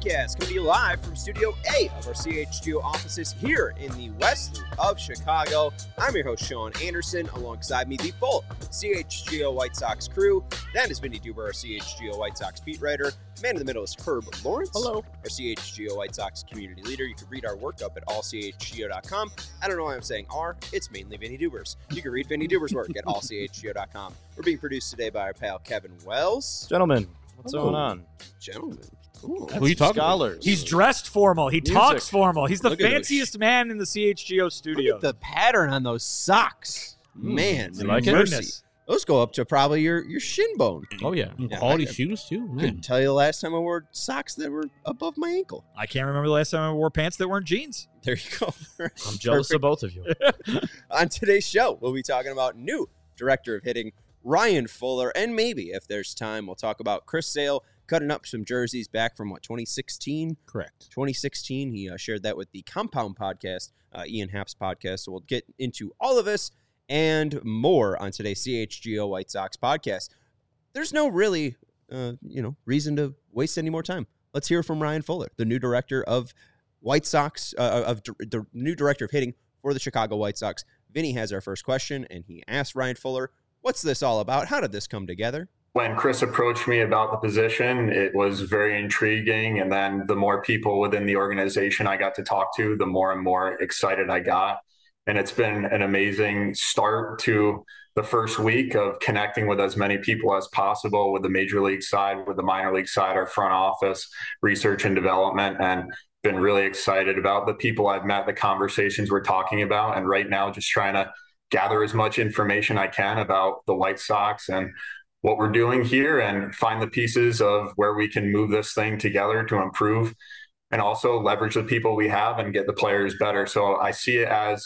Podcast, coming to you live from Studio A of our CHGO offices here in the West Loop of Chicago. I'm your host, Sean Anderson. Alongside me, the full CHGO White Sox crew. That is Vinny Duber, our CHGO White Sox beat writer. Man in the middle is Herb Lawrence. Hello. Our CHGO White Sox community leader. You can read our work up at allchgo.com. I don't know why I'm saying R. It's mainly Vinny Duber's. You can read Vinny Duber's work at allchgo.com. We're being produced today by our pal Kevin Wells. Gentlemen, what's going on? Gentlemen. Cool. Who are you talking Scholars. about? He's dressed formal. He talks formal. He's the Look at fanciest man in the CHGO studio. Look at the pattern on those socks. Man, You like it? mercy. Those go up to probably your shin bone. Oh, yeah. Yeah, Quality I- shoes, too. I couldn't tell you the last time I wore socks that were above my ankle. I can't remember the last time I wore pants that weren't jeans. There you go. I'm jealous of both of you. On today's show, we'll be talking about new director of hitting, Ryan Fuller, and maybe, if there's time, we'll talk about Chris Sale cutting up some jerseys back from, 2016? Correct. 2016. He shared that with the Compound podcast, Ian Happ's podcast. So we'll get into all of this and more on today's CHGO White Sox podcast. There's no really, reason to waste any more time. Let's hear from Ryan Fuller, the new director of White Sox, the new director of hitting for the Chicago White Sox. Vinny has our first question, and he asked Ryan Fuller, what's this all about? How did this come together? When Chris approached me about the position, it was very intriguing. And then the more people within the organization I got to talk to, the more and more excited I got. And it's been an amazing start to the first week of connecting with as many people as possible with the major league side, with the minor league side, our front office, research and development, and been really excited about the people I've met, the conversations we're talking about. And right now, just trying to gather as much information I can about the White Sox and what we're doing here and find the pieces of where we can move this thing together to improve and also leverage the people we have and get the players better. So I see it as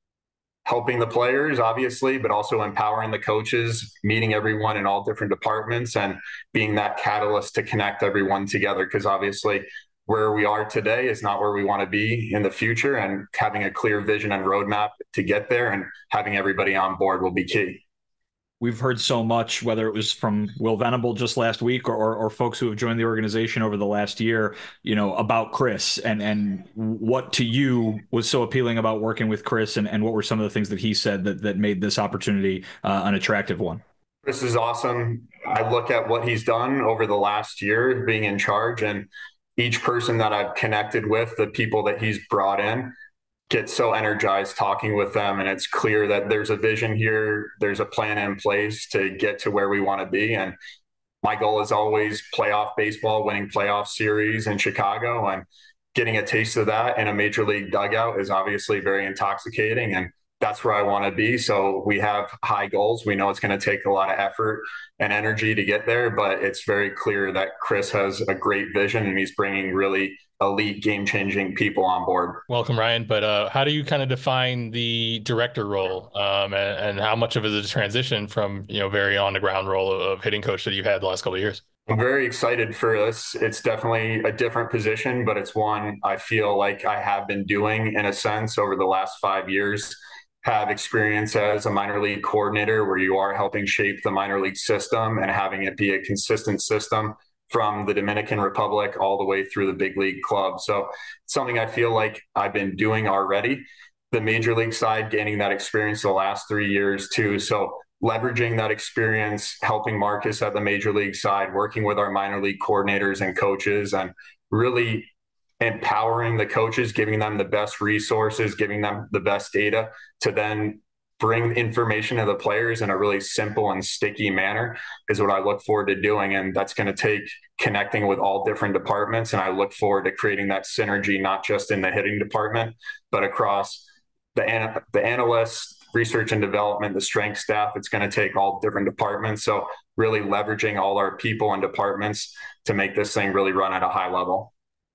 helping the players, obviously, but also empowering the coaches, meeting everyone in all different departments and being that catalyst to connect everyone together. Because obviously where we are today is not where we want to be in the future, and having a clear vision and roadmap to get there and having everybody on board will be key. We've heard so much, whether it was from Will Venable just last week or folks who have joined the organization over the last year, about Chris and what to you was so appealing about working with Chris and what were some of the things that he said that made this opportunity an attractive one. Chris is awesome. I look at what he's done over the last year being in charge, and each person that I've connected with, the people that he's brought in, get so energized talking with them, and it's clear that there's a vision here, there's a plan in place to get to where we want to be. And my goal is always playoff baseball, winning playoff series in Chicago, and getting a taste of that in a major league dugout is obviously very intoxicating, and that's where I want to be. So we have high goals. We know it's going to take a lot of effort and energy to get there, but it's very clear that Chris has a great vision and he's bringing really elite game-changing people on board. Welcome, Ryan. But how do you kind of define the director role, and how much of it is a transition from, very on-the-ground role of hitting coach that you've had the last couple of years? I'm very excited for this. It's definitely a different position, but it's one I feel like I have been doing in a sense over the last 5 years. Have experience as a minor league coordinator where you are helping shape the minor league system and having it be a consistent system from the Dominican Republic all the way through the big league club. So it's something I feel like I've been doing already. The major league side, gaining that experience the last 3 years too. So leveraging that experience, helping Marcus at the major league side, working with our minor league coordinators and coaches, and really empowering the coaches, giving them the best resources, giving them the best data to then bring information to the players in a really simple and sticky manner is what I look forward to doing. And that's going to take connecting with all different departments. And I look forward to creating that synergy, not just in the hitting department, but across the analysts, research and development, the strength staff. It's going to take all different departments. So really leveraging all our people and departments to make this thing really run at a high level.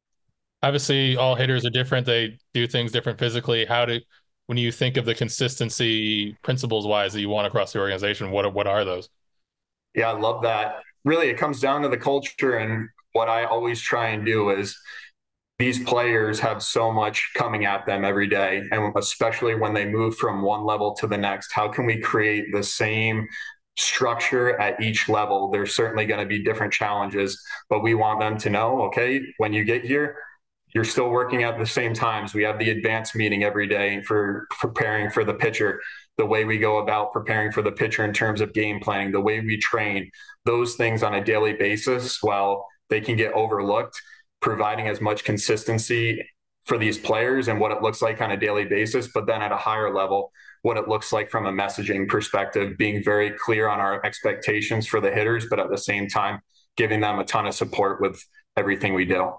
Obviously, all hitters are different. They do things different physically. When you think of the consistency principles-wise that you want across the organization, what are those? Yeah, I love that. Really, it comes down to the culture. And what I always try and do is these players have so much coming at them every day. And especially when they move from one level to the next, how can we create the same structure at each level. There's certainly going to be different challenges, but we want them to know, okay, when you get here, you're still working at the same times. We have the advanced meeting every day for preparing for the pitcher, the way we go about preparing for the pitcher in terms of game planning, the way we train, those things on a daily basis, while they can get overlooked, providing as much consistency for these players and what it looks like on a daily basis, but then at a higher level, what it looks like from a messaging perspective, being very clear on our expectations for the hitters, but at the same time, giving them a ton of support with everything we do.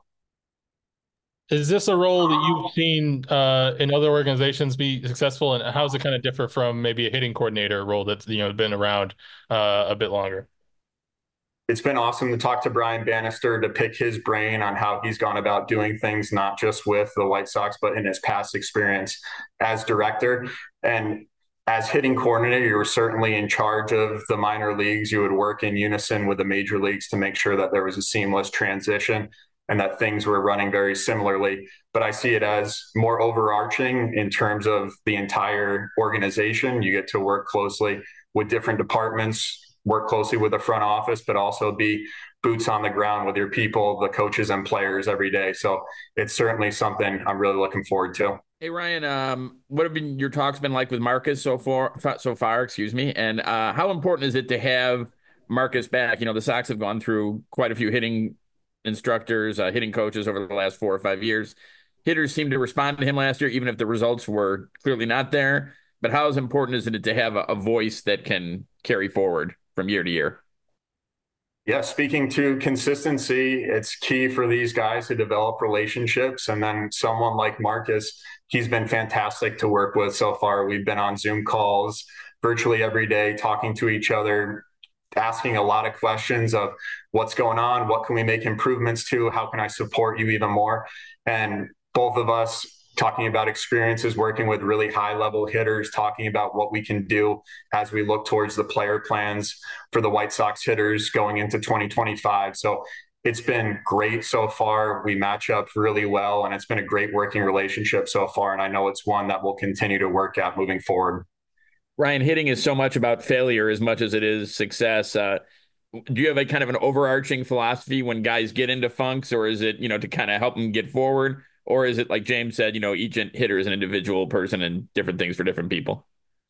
Is this a role that you've seen in other organizations be successful, and how does it kind of differ from maybe a hitting coordinator role that's been around a bit longer? It's been awesome to talk to Brian Bannister, to pick his brain on how he's gone about doing things, not just with the White Sox, but in his past experience as director. And as hitting coordinator, you were certainly in charge of the minor leagues. You would work in unison with the major leagues to make sure that there was a seamless transition and that things were running very similarly. But I see it as more overarching in terms of the entire organization. You get to work closely with different departments, work closely with the front office, but also be boots on the ground with your people, the coaches and players every day. So it's certainly something I'm really looking forward to. Hey, Ryan, what have your talks been like with Marcus so far, and how important is it to have Marcus back? The Sox have gone through quite a few hitting instructors, hitting coaches over the last 4 or 5 years. Hitters seem to respond to him last year, even if the results were clearly not there. But how important is it to have a voice that can carry forward from year to year? Yeah, speaking to consistency, it's key for these guys to develop relationships. And then someone like Marcus, he's been fantastic to work with so far. We've been on Zoom calls virtually every day, talking to each other, asking a lot of questions of what's going on, what can we make improvements to, how can I support you even more? And both of us talking about experiences working with really high level hitters, talking about what we can do as we look towards the player plans for the White Sox hitters going into 2025. So it's been great so far. We match up really well, and it's been a great working relationship so far. And I know it's one that we'll continue to work at moving forward. Ryan, hitting is so much about failure as much as it is success. Do you have a kind of an overarching philosophy when guys get into funks, or is it, to kind of help them get forward? Or is it like James said, each hitter is an individual person and different things for different people?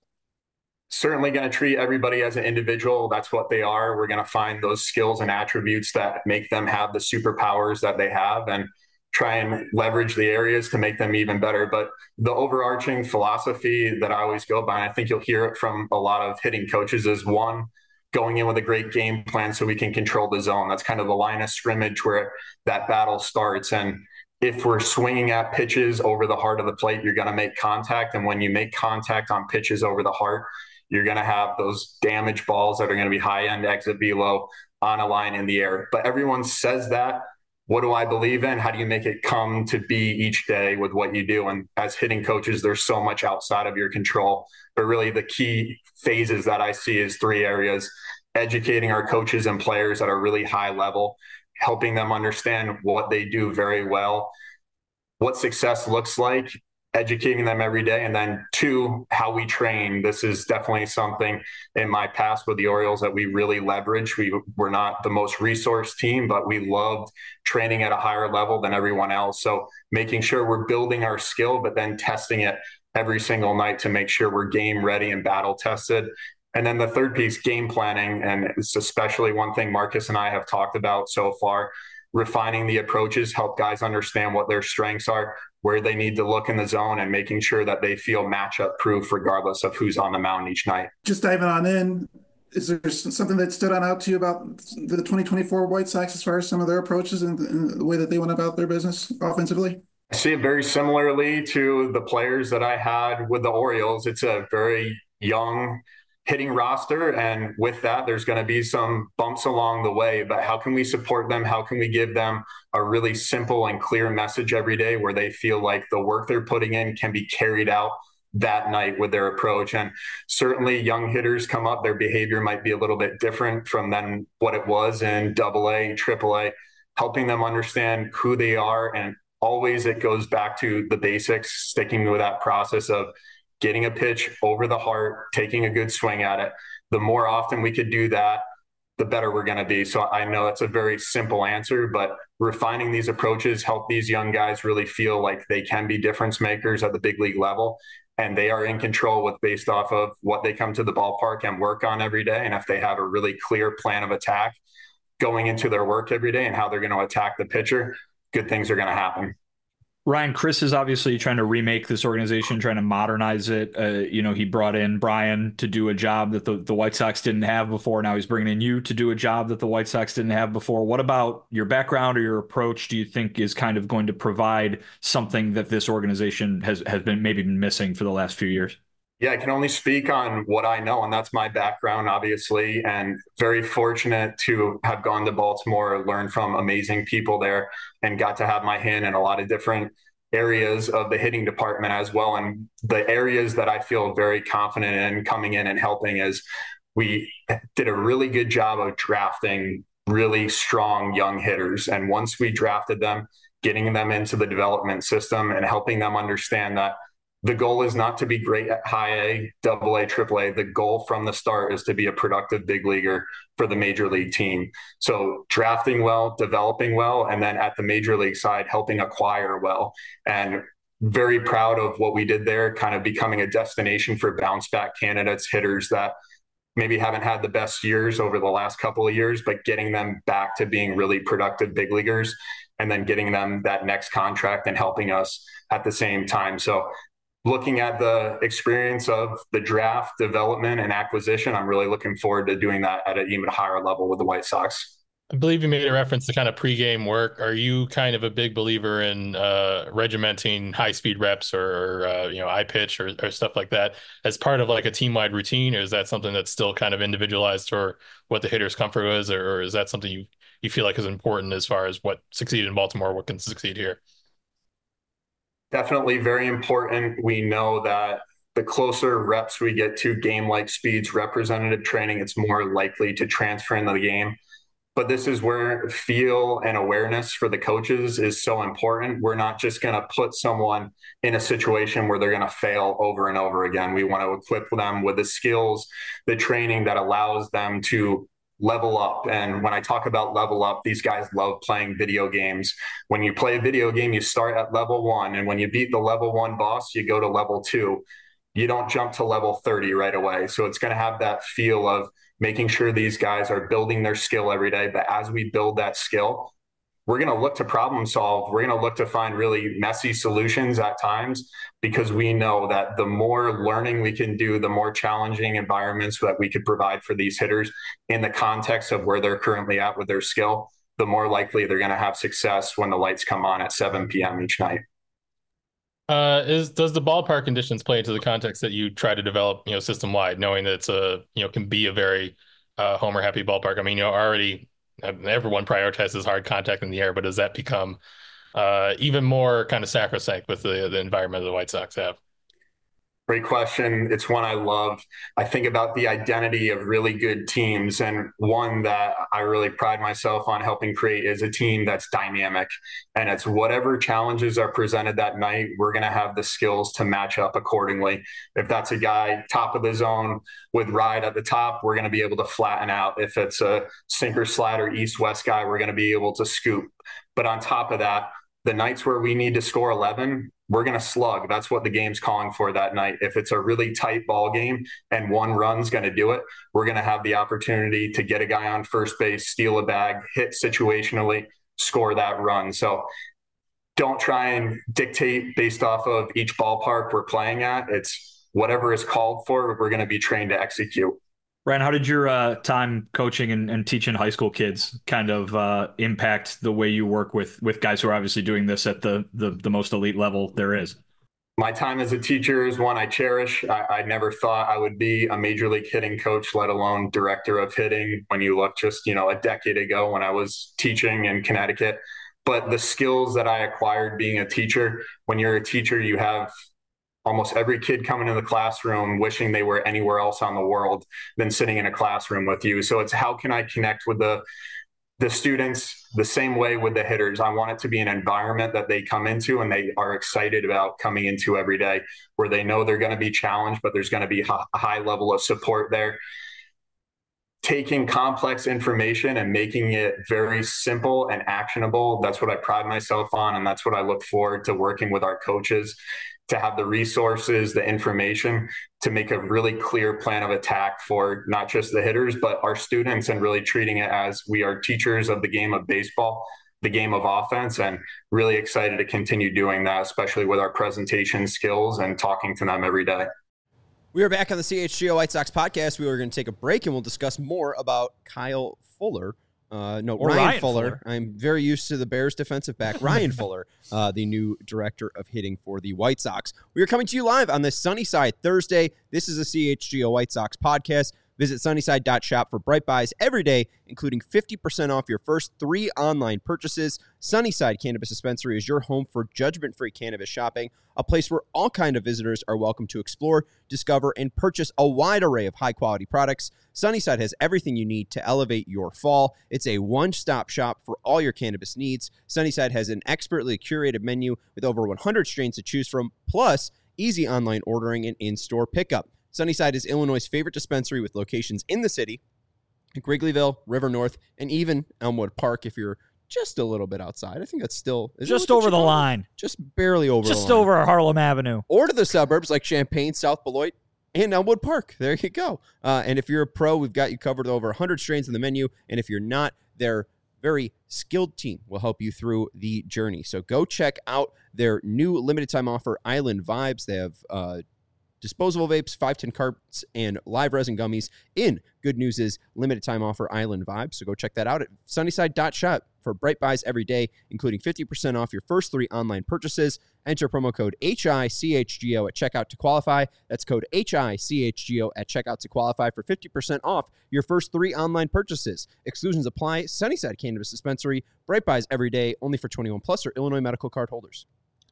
Certainly going to treat everybody as an individual. That's what they are. We're going to find those skills and attributes that make them have the superpowers that they have and try and leverage the areas to make them even better. But the overarching philosophy that I always go by, and I think you'll hear it from a lot of hitting coaches, is one, going in with a great game plan so we can control the zone. That's kind of the line of scrimmage where that battle starts. And if we're swinging at pitches over the heart of the plate, you're going to make contact. And when you make contact on pitches over the heart, you're going to have those damaged balls that are going to be high end exit velo on a line in the air. But everyone says that. What do I believe in? How do you make it come to be each day with what you do? And as hitting coaches, there's so much outside of your control. But really the key phases that I see is 3 areas: educating our coaches and players at a really high level, helping them understand what they do very well, what success looks like, educating them every day. And then 2, how we train. This is definitely something in my past with the Orioles that we really leverage. We're not the most resourced team, but we loved training at a higher level than everyone else. So making sure we're building our skill, but then testing it every single night to make sure we're game ready and battle tested. And then the third piece, game planning. And it's especially one thing Marcus and I have talked about so far, refining the approaches, help guys understand what their strengths are, where they need to look in the zone, and making sure that they feel matchup proof regardless of who's on the mound each night. Just diving on in, is there something that stood out to you about the 2024 White Sox as far as some of their approaches and the way that they went about their business offensively? I see it very similarly to the players that I had with the Orioles. It's a very young hitting roster, and with that there's going to be some bumps along the way, but how can we support them? How can we give them a really simple and clear message every day where they feel like the work they're putting in can be carried out that night with their approach? And certainly young hitters come up, their behavior might be a little bit different from then what it was in AA, AAA, helping them understand who they are. And always it goes back to the basics, sticking with that process of getting a pitch over the heart, taking a good swing at it, the more often we could do that, the better we're going to be. So I know that's a very simple answer, but refining these approaches help these young guys really feel like they can be difference makers at the big league level. And they are in control with based off of what they come to the ballpark and work on every day. And if they have a really clear plan of attack going into their work every day and how they're going to attack the pitcher, good things are going to happen. Ryan, Chris is obviously trying to remake this organization, trying to modernize it. He brought in Brian to do a job that the White Sox didn't have before. Now he's bringing in you to do a job that the White Sox didn't have before. What about your background or your approach do you think is kind of going to provide something that this organization has been missing for the last few years? Yeah, I can only speak on what I know, and that's my background, obviously, and very fortunate to have gone to Baltimore, learned from amazing people there, and got to have my hand in a lot of different areas of the hitting department as well. And the areas that I feel very confident in coming in and helping is we did a really good job of drafting really strong young hitters. And once we drafted them, getting them into the development system and helping them understand that the goal is not to be great at high A, double A, triple A. The goal from the start is to be a productive big leaguer for the major league team. So drafting well, developing well, and then at the major league side, helping acquire well. And very proud of what we did there, kind of becoming a destination for bounce back candidates, hitters that maybe haven't had the best years over the last couple of years, but getting them back to being really productive big leaguers and then getting them that next contract and helping us at the same time. So looking at the experience of the draft, development, and acquisition, I'm really looking forward to doing that at an even higher level with the White Sox. I believe you made a reference to kind of pregame work. Are you kind of a big believer in regimenting high-speed reps or eye pitch or stuff like that as part of like a team-wide routine, or is that something that's still kind of individualized for what the hitter's comfort is, or is that something you feel like is important as far as what succeeded in Baltimore, what can succeed here? Definitely very important. We know that the closer reps we get to game-like speeds, representative training, it's more likely to transfer into the game. But this is where feel and awareness for the coaches is so important. We're not just going to put someone in a situation where they're going to fail over and over again. We want to equip them with the skills, the training that allows them to level up. And when I talk about level up, these guys love playing video games. When you play a video game, you start at level 1. And when you beat the level 1 boss, you go to level 2. You don't jump to level 30 right away. So it's going to have that feel of making sure these guys are building their skill every day. But as we build that skill, we're going to look to problem solve. We're going to look to find really messy solutions at times, because we know that the more learning we can do, the more challenging environments that we could provide for these hitters in the context of where they're currently at with their skill, the more likely they're going to have success when the lights come on at 7 p.m. each night. Does the ballpark conditions play into the context that you try to develop, system wide, knowing that it's can be a very homer happy ballpark? I mean, already everyone prioritizes hard contact in the air, but does that become even more kind of sacrosanct with the environment the White Sox have? Great question. It's one I love. I think about the identity of really good teams, and one that I really pride myself on helping create is a team that's dynamic. And it's whatever challenges are presented that night, we're going to have the skills to match up accordingly. If that's a guy top of the zone with ride at the top, we're going to be able to flatten out. If it's a sinker slider east-west guy, we're going to be able to scoop. But on top of that, the nights where we need to score 11, we're going to slug. That's what the game's calling for that night. If it's a really tight ball game and one run's going to do it, we're going to have the opportunity to get a guy on first base, steal a bag, hit situationally, score that run. So don't try and dictate based off of each ballpark we're playing at. It's whatever is called for, we're going to be trained to execute. Ryan, how did your time coaching and teaching high school kids kind of impact the way you work with guys who are obviously doing this at the most elite level there is? My time as a teacher is one I cherish. I never thought I would be a major league hitting coach, let alone director of hitting, when you look just, a decade ago when I was teaching in Connecticut. But the skills that I acquired being a teacher, when you're a teacher, you have almost every kid coming in the classroom wishing they were anywhere else on the world than sitting in a classroom with you. So it's how can I connect with the students the same way with the hitters? I want it to be an environment that they come into and they are excited about coming into every day, where they know they're going to be challenged, but there's going to be a high level of support there. taking complex information and making it very simple and actionable. That's what I pride myself on. And that's what I look forward to working with our coaches, to have the resources, the information to make a really clear plan of attack for not just the hitters, but our students, and really treating it as we are teachers of the game of baseball, the game of offense, and really excited to continue doing that, especially with our presentation skills and talking to them every day. We are back on the CHGO White Sox podcast. We are going to take a break, and we'll discuss more about Kyle Fuller. Ryan Fuller. I'm very used to the Bears defensive back, Ryan Fuller, the new director of hitting for the White Sox. We are coming to you live on this Sunnyside Thursday. This is a CHGO White Sox podcast. Visit sunnyside.shop for Bright Buys every day, including 50% off your first 3 online purchases. Sunnyside Cannabis Dispensary is your home for judgment-free cannabis shopping, a place where all kinds of visitors are welcome to explore, discover, and purchase a wide array of high-quality products. Sunnyside has everything you need to elevate your fall. It's a one-stop shop for all your cannabis needs. Sunnyside has an expertly curated menu with over 100 strains to choose from, plus easy online ordering and in-store pickup. Sunnyside is Illinois' favorite dispensary with locations in the city, Wrigleyville, River North, and even Elmwood Park if you're just a little bit outside. I think that's still... Just over the line. Just barely over the line. Just over Harlem Avenue. Or to the suburbs like Champaign, South Beloit, and Elmwood Park. There you go. And if you're a pro, we've got you covered with over 100 strains in the menu. And if you're not, their very skilled team will help you through the journey. So go check out their new limited time offer, Island Vibes. They have... disposable vapes, 510 carts, and live resin gummies in Good News is limited time offer Island Vibes. So go check that out at sunnyside.shop for Bright Buys every day, including 50% off your first 3 online purchases. Enter promo code HICHGO at checkout to qualify. That's code HICHGO at checkout to qualify for 50% off your first 3 online purchases. Exclusions apply. Sunnyside Cannabis Dispensary. Bright Buys every day, only for 21 plus or Illinois medical card holders.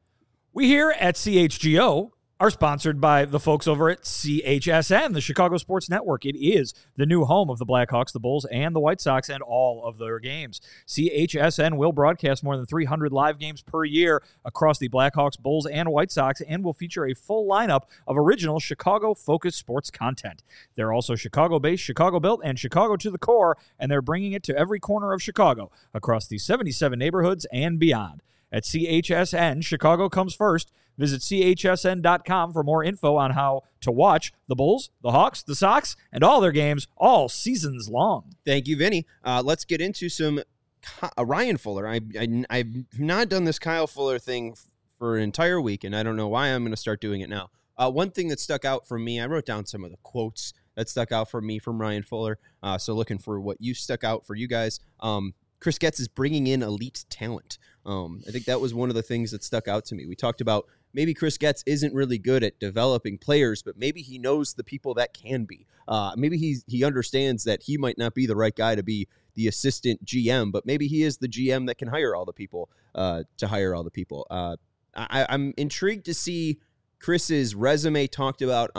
We here at CHGO are sponsored by the folks over at CHSN, the Chicago Sports Network. It is the new home of the Blackhawks, the Bulls, and the White Sox, and all of their games. CHSN will broadcast more than 300 live games per year across the Blackhawks, Bulls, and White Sox, and will feature a full lineup of original Chicago-focused sports content. They're also Chicago-based, Chicago-built, and Chicago to the core, and they're bringing it to every corner of Chicago across the 77 neighborhoods and beyond. At CHSN, Chicago comes first. Visit chsn.com for more info on how to watch the Bulls, the Hawks, the Sox, and all their games all seasons long. Thank you, Vinny. Let's get into some Ryan Fuller. I've not done this Kyle Fuller thing for an entire week, and I don't know why I'm going to start doing it now. One thing that stuck out for me, I wrote down some of the quotes that stuck out for me from Ryan Fuller, so looking for what you stuck out for you guys. Chris Getz is bringing in elite talent. I think that was one of the things that stuck out to me. We talked about maybe Chris Getz isn't really good at developing players, but maybe he knows the people that can be. Maybe he understands that he might not be the right guy to be the assistant GM, but maybe he is the GM that can hire all the people to hire all the people. I'm intrigued to see Chris's resume talked about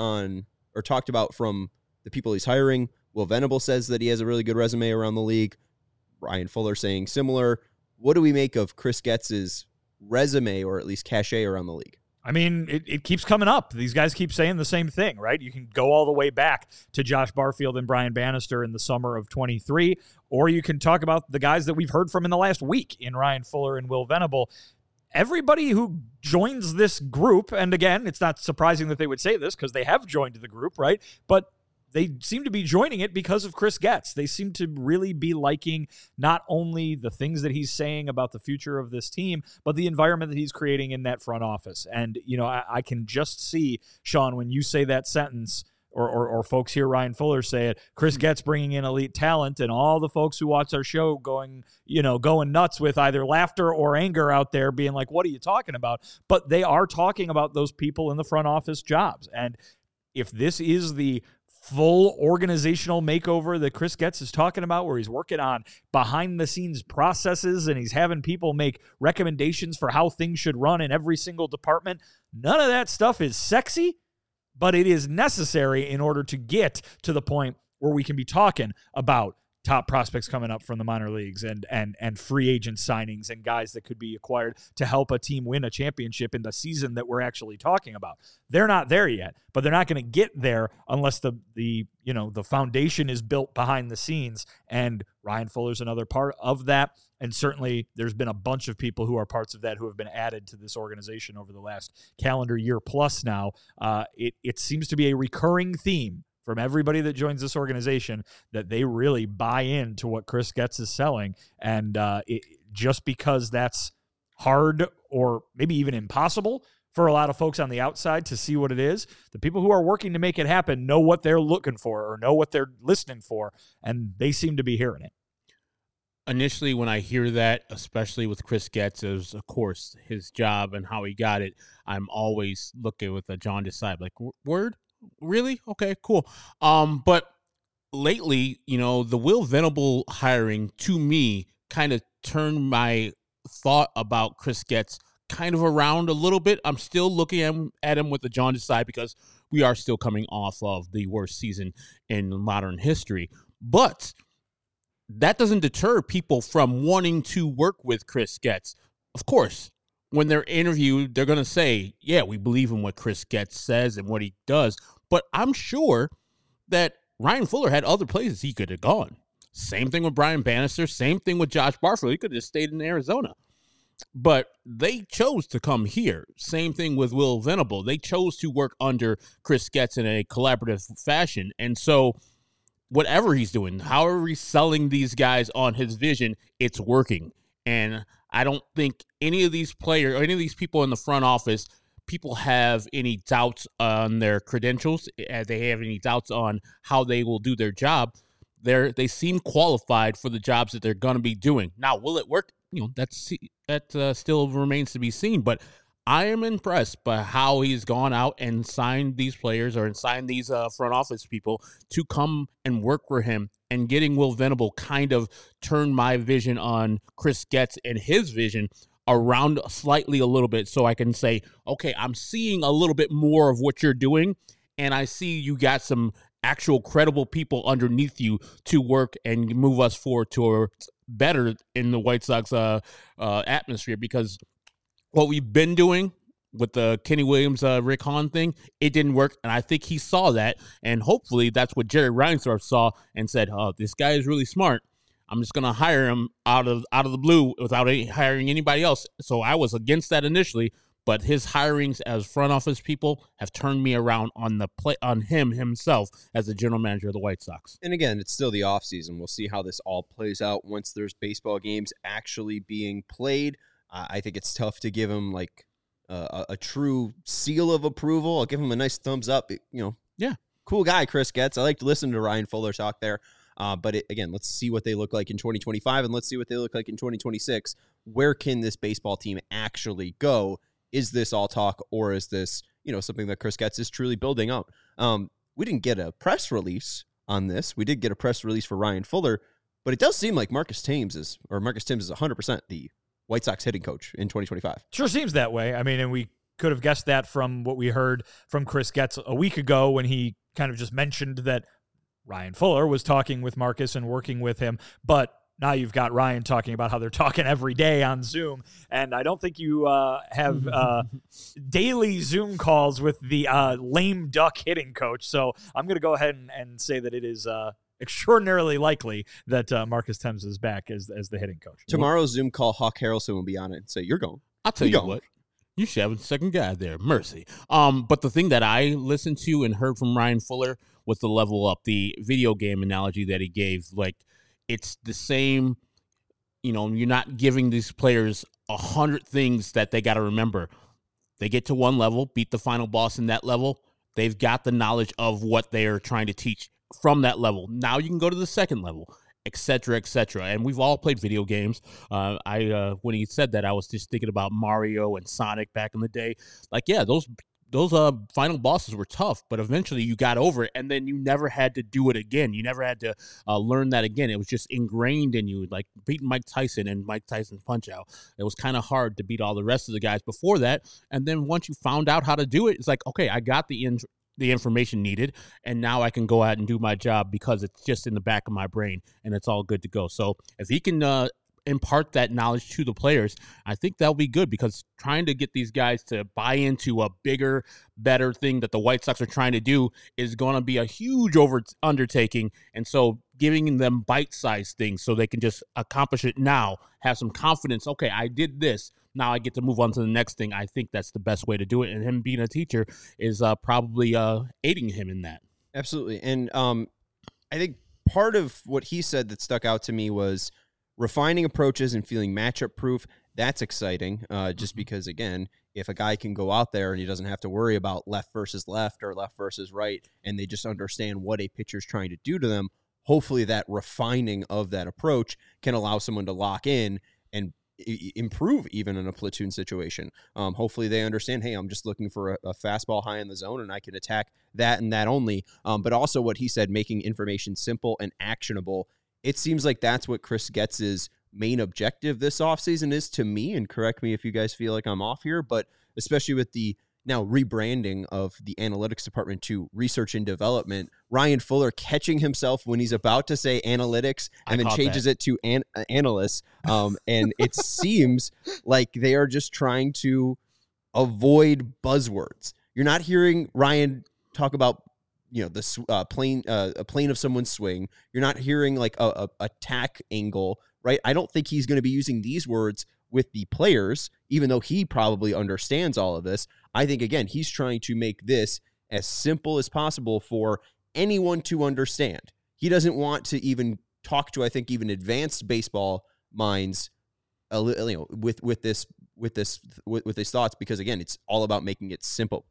from the people he's hiring. Will Venable says that he has a really good resume around the league. Ryan Fuller saying similar. What do we make of Chris Getz's resume, or at least cachet, around the league? I mean, it keeps coming up. These guys keep saying the same thing, right? You can go all the way back to Josh Barfield and Brian Bannister in the summer of 23, or you can talk about the guys that we've heard from in the last week in Ryan Fuller and Will Venable. Everybody who joins this group, and again, it's not surprising that they would say this because they have joined the group, right? But they seem to be joining it because of Chris Getz. They seem to really be liking not only the things that he's saying about the future of this team, but the environment that he's creating in that front office. And, you know, I can just see, Sean, when you say that sentence, or folks hear Ryan Fuller say it, Chris Getz bringing in elite talent, and all the folks who watch our show going nuts with either laughter or anger out there being like, what are you talking about? But they are talking about those people in the front office jobs. And if this is the full organizational makeover that Chris Getz is talking about, where he's working on behind-the-scenes processes and he's having people make recommendations for how things should run in every single department, none of that stuff is sexy, but it is necessary in order to get to the point where we can be talking about top prospects coming up from the minor leagues and free agent signings and guys that could be acquired to help a team win a championship in the season that we're actually talking about. They're not there yet, but they're not going to get there unless the foundation is built behind the scenes, and Ryan Fuller's another part of that. And certainly there's been a bunch of people who are parts of that who have been added to this organization over the last calendar year plus now. It seems to be a recurring theme from everybody that joins this organization that they really buy into what Chris Getz is selling. And just because that's hard or maybe even impossible for a lot of folks on the outside to see what it is, the people who are working to make it happen know what they're looking for or know what they're listening for, and they seem to be hearing it. Initially, when I hear that, especially with Chris Getz, as of course his job and how he got it, I'm always looking with a John Desai, like, word? Really? Okay, cool. But lately, the Will Venable hiring, to me, kind of turned my thought about Chris Getz kind of around a little bit. I'm still looking at him with the John Desai because we are still coming off of the worst season in modern history. But that doesn't deter people from wanting to work with Chris Getz. Of course, when they're interviewed, they're going to say, yeah, we believe in what Chris Getz says and what he does. But I'm sure that Ryan Fuller had other places he could have gone. Same thing with Brian Bannister. Same thing with Josh Barfield. He could have just stayed in Arizona. But they chose to come here. Same thing with Will Venable. They chose to work under Chris Getz in a collaborative fashion. And so whatever he's doing, however he's selling these guys on his vision, it's working. And I don't think any of these players or any of these people in the front office, people have any doubts on their credentials. They have any doubts on how they will do their job. They seem qualified for the jobs that they're going to be doing. Now, will it work? That still remains to be seen. But I am impressed by how he's gone out and signed these players or signed these front office people to come and work for him. And getting Will Venable kind of turned my vision on Chris Getz and his vision around slightly a little bit, so I can say, okay, I'm seeing a little bit more of what you're doing, and I see you got some actual credible people underneath you to work and move us forward to better in the White Sox atmosphere, because what we've been doing with the Kenny Williams, Rick Hahn thing, it didn't work, and I think he saw that, and hopefully that's what Jerry Reinsdorf saw and said, oh, this guy is really smart. I'm just going to hire him out of the blue without hiring anybody else. So I was against that initially, but his hirings as front office people have turned me around on him himself as the general manager of the White Sox. And again, it's still the offseason. We'll see how this all plays out once there's baseball games actually being played. I think it's tough to give him like a true seal of approval. I'll give him a nice thumbs up. Yeah, cool guy, Chris Getz. I like to listen to Ryan Fuller talk there. But again, let's see what they look like in 2025, and let's see what they look like in 2026. Where can this baseball team actually go? Is this all talk, or is this something that Chris Getz is truly building out? We didn't get a press release on this. We did get a press release for Ryan Fuller, but it does seem like Marcus Thames is 100% the White Sox hitting coach in 2025. Sure seems that way. I mean, and we could have guessed that from what we heard from Chris Getz a week ago when he kind of just mentioned that Ryan Fuller was talking with Marcus and working with him, but now you've got Ryan talking about how they're talking every day on Zoom, and I don't think you have daily Zoom calls with the lame duck hitting coach, so I'm going to go ahead and say that it is extraordinarily likely that Marcus Thames is back as the hitting coach. Tomorrow's Zoom call, Hawk Harrelson will be on it and say, you're going. I'll tell you what. You should have a second guy there. Mercy. But the thing that I listened to and heard from Ryan Fuller was the level up, the video game analogy that he gave. Like, it's the same, you're not giving these players 100 things that they got to remember. They get to one level, beat the final boss in that level. They've got the knowledge of what they are trying to teach from that level. Now you can go to the second level, et cetera, et cetera. And we've all played video games. When he said that, I was just thinking about Mario and Sonic back in the day. Like, yeah, those final bosses were tough, but eventually you got over it, and then you never had to do it again. You never had to learn that again. It was just ingrained in you, like beating Mike Tyson and Mike Tyson's Punch-Out. It was kind of hard to beat all the rest of the guys before that, and then once you found out how to do it, it's like, okay, I got the the information needed, and now I can go out and do my job because it's just in the back of my brain and it's all good to go. So if he can impart that knowledge to the players, I think that'll be good, because trying to get these guys to buy into a bigger, better thing that the White Sox are trying to do is going to be a huge undertaking. And so giving them bite-sized things so they can just accomplish it now, have some confidence. Okay, I did this. Now I get to move on to the next thing. I think that's the best way to do it. And him being a teacher is probably aiding him in that. Absolutely. And I think part of what he said that stuck out to me was refining approaches and feeling matchup proof. That's exciting, just because, again, if a guy can go out there and he doesn't have to worry about left versus left or left versus right, and they just understand what a pitcher's trying to do to them, hopefully that refining of that approach can allow someone to lock in and improve even in a platoon situation. Hopefully they understand, hey, I'm just looking for a fastball high in the zone and I can attack that and that only. But also what he said, making information simple and actionable. It seems like that's what Chris Getz's main objective this offseason is to me, and correct me if you guys feel like I'm off here, but especially with the now rebranding of the analytics department to research and development, Ryan Fuller catching himself when he's about to say analytics and then changes it to analysts. And it seems like they are just trying to avoid buzzwords. You're not hearing Ryan talk about, the plane of someone's swing. You're not hearing like a attack angle, right? I don't think he's going to be using these words with the players, even though he probably understands all of this. I think, again, he's trying to make this as simple as possible for anyone to understand. He doesn't want to even talk to, I think, even advanced baseball minds, with his thoughts, because, again, it's all about making it simple.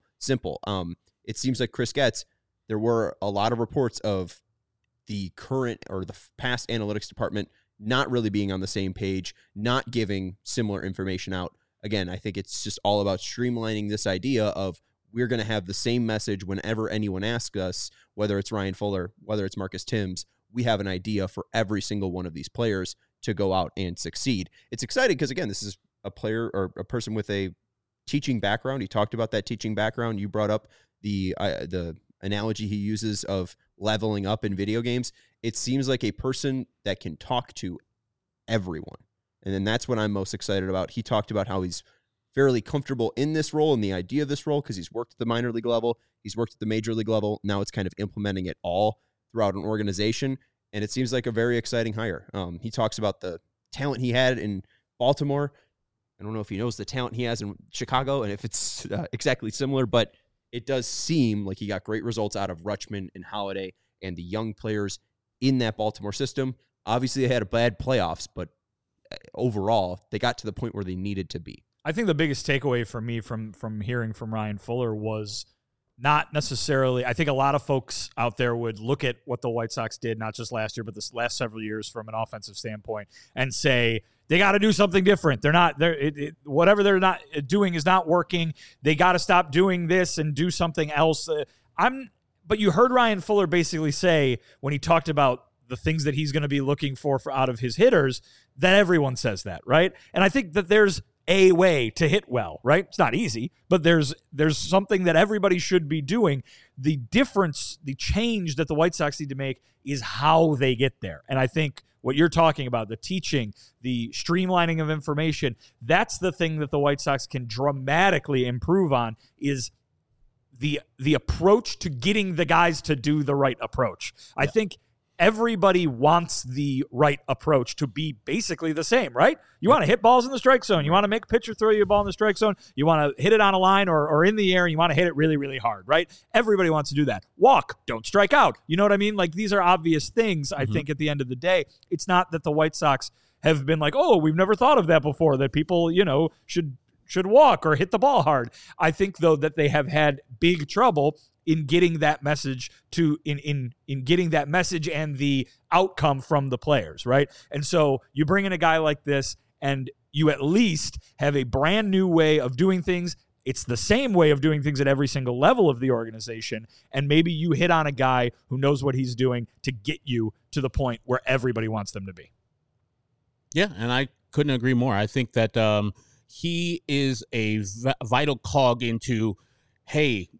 It seems like Chris Getz, there were a lot of reports of the current or the past analytics department not really being on the same page, not giving similar information out. Again, I think it's just all about streamlining this idea of we're going to have the same message whenever anyone asks us, whether it's Ryan Fuller, whether it's Marcus Timms. We have an idea for every single one of these players to go out and succeed. It's exciting because, again, this is a player or a person with a teaching background. He talked about that teaching background. You brought up the analogy he uses of leveling up in video games. It seems like a person that can talk to everyone. And then that's what I'm most excited about. He talked about how he's fairly comfortable in this role and the idea of this role because he's worked at the minor league level. He's worked at the major league level. Now it's kind of implementing it all throughout an organization. And it seems like a very exciting hire. He talks about the talent he had in Baltimore. I don't know if he knows the talent he has in Chicago and if it's exactly similar, but it does seem like he got great results out of Rutschman and Holiday and the young players in that Baltimore system. Obviously, they had a bad playoffs, but overall, they got to the point where they needed to be. I think the biggest takeaway for me from hearing from Ryan Fuller was not necessarily, I think a lot of folks out there would look at what the White Sox did, not just last year, but this last several years from an offensive standpoint, and say, they got to do something different. Whatever they're not doing is not working. They got to stop doing this and do something else. But you heard Ryan Fuller basically say when he talked about the things that he's going to be looking for out of his hitters, that everyone says that, right? And I think that there's a way to hit well, right? It's not easy, but there's something that everybody should be doing. The difference, the change that the White Sox need to make is how they get there. And I think what you're talking about, the teaching, the streamlining of information, that's the thing that the White Sox can dramatically improve on, is the approach to getting the guys to do the right approach. I think everybody wants the right approach to be basically the same, right? You want to hit balls in the strike zone. You want to make a pitcher throw you a ball in the strike zone. You want to hit it on a line or in the air, and you want to hit it really, really hard, right? Everybody wants to do that. Walk, don't strike out. You know what I mean? Like, these are obvious things, I think, at the end of the day. It's not that the White Sox have been like, oh, we've never thought of that before, that people, should walk or hit the ball hard. I think, though, that they have had big trouble in getting that message in getting that message and the outcome from the players, right? And so you bring in a guy like this, and you at least have a brand new way of doing things. It's the same way of doing things at every single level of the organization, and maybe you hit on a guy who knows what he's doing to get you to the point where everybody wants them to be. Yeah, and I couldn't agree more. I think that he is a vital cog into, hey,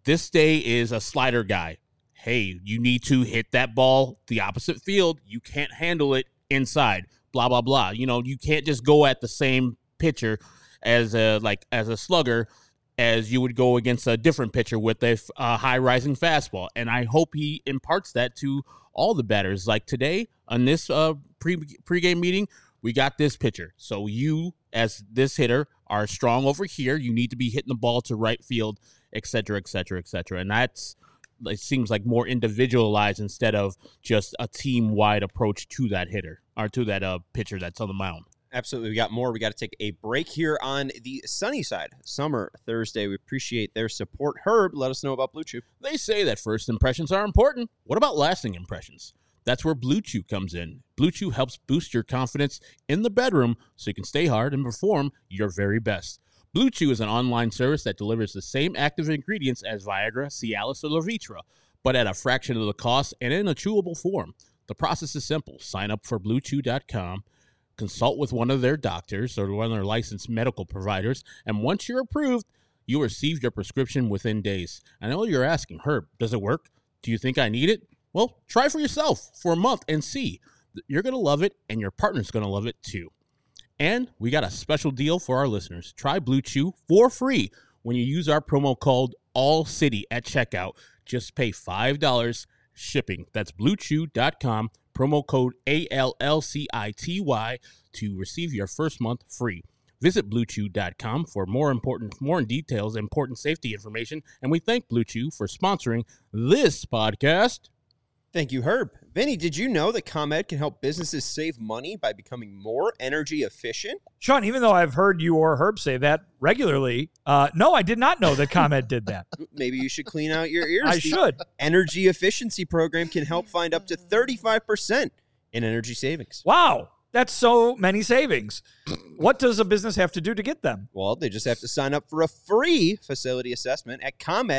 this day is a slider guy. Hey, you need to hit that ball the opposite field. You can't handle it inside. Blah blah blah. You can't just go at the same pitcher as a slugger as you would go against a different pitcher with a high rising fastball. And I hope he imparts that to all the batters. Like today on this pregame meeting, we got this pitcher. So you, as this hitter, are strong over here. You need to be hitting the ball to right field, et cetera, et cetera, et cetera. And it seems like more individualized instead of just a team-wide approach to that hitter or to that pitcher that's on the mound. Absolutely. We got more. We got to take a break here on the sunny side. Summer Thursday. We appreciate their support. Herb, let us know about Blue Chew. They say that first impressions are important. What about lasting impressions? That's where Blue Chew comes in. Blue Chew helps boost your confidence in the bedroom so you can stay hard and perform your very best. Blue Chew is an online service that delivers the same active ingredients as Viagra, Cialis, or Levitra, but at a fraction of the cost and in a chewable form. The process is simple. Sign up for BlueChew.com, consult with one of their doctors or one of their licensed medical providers, and once you're approved, you'll receive your prescription within days. I know you're asking, Herb, does it work? Do you think I need it? Well, try for yourself for a month and see. You're going to love it, and your partner's going to love it too. And we got a special deal for our listeners. Try Blue Chew for free when you use our promo code ALLCITY at checkout. Just pay $5 shipping. That's BlueChew.com, promo code ALLCITY to receive your first month free. Visit BlueChew.com for more details, important safety information, and we thank Blue Chew for sponsoring this podcast. Thank you, Herb. Vinny, did you know that ComEd can help businesses save money by becoming more energy efficient? Sean, even though I've heard you or Herb say that regularly, no, I did not know that ComEd did that. Maybe you should clean out your ears. I should. Energy efficiency program can help find up to 35% in energy savings. Wow. That's so many savings. What does a business have to do to get them? Well, they just have to sign up for a free facility assessment at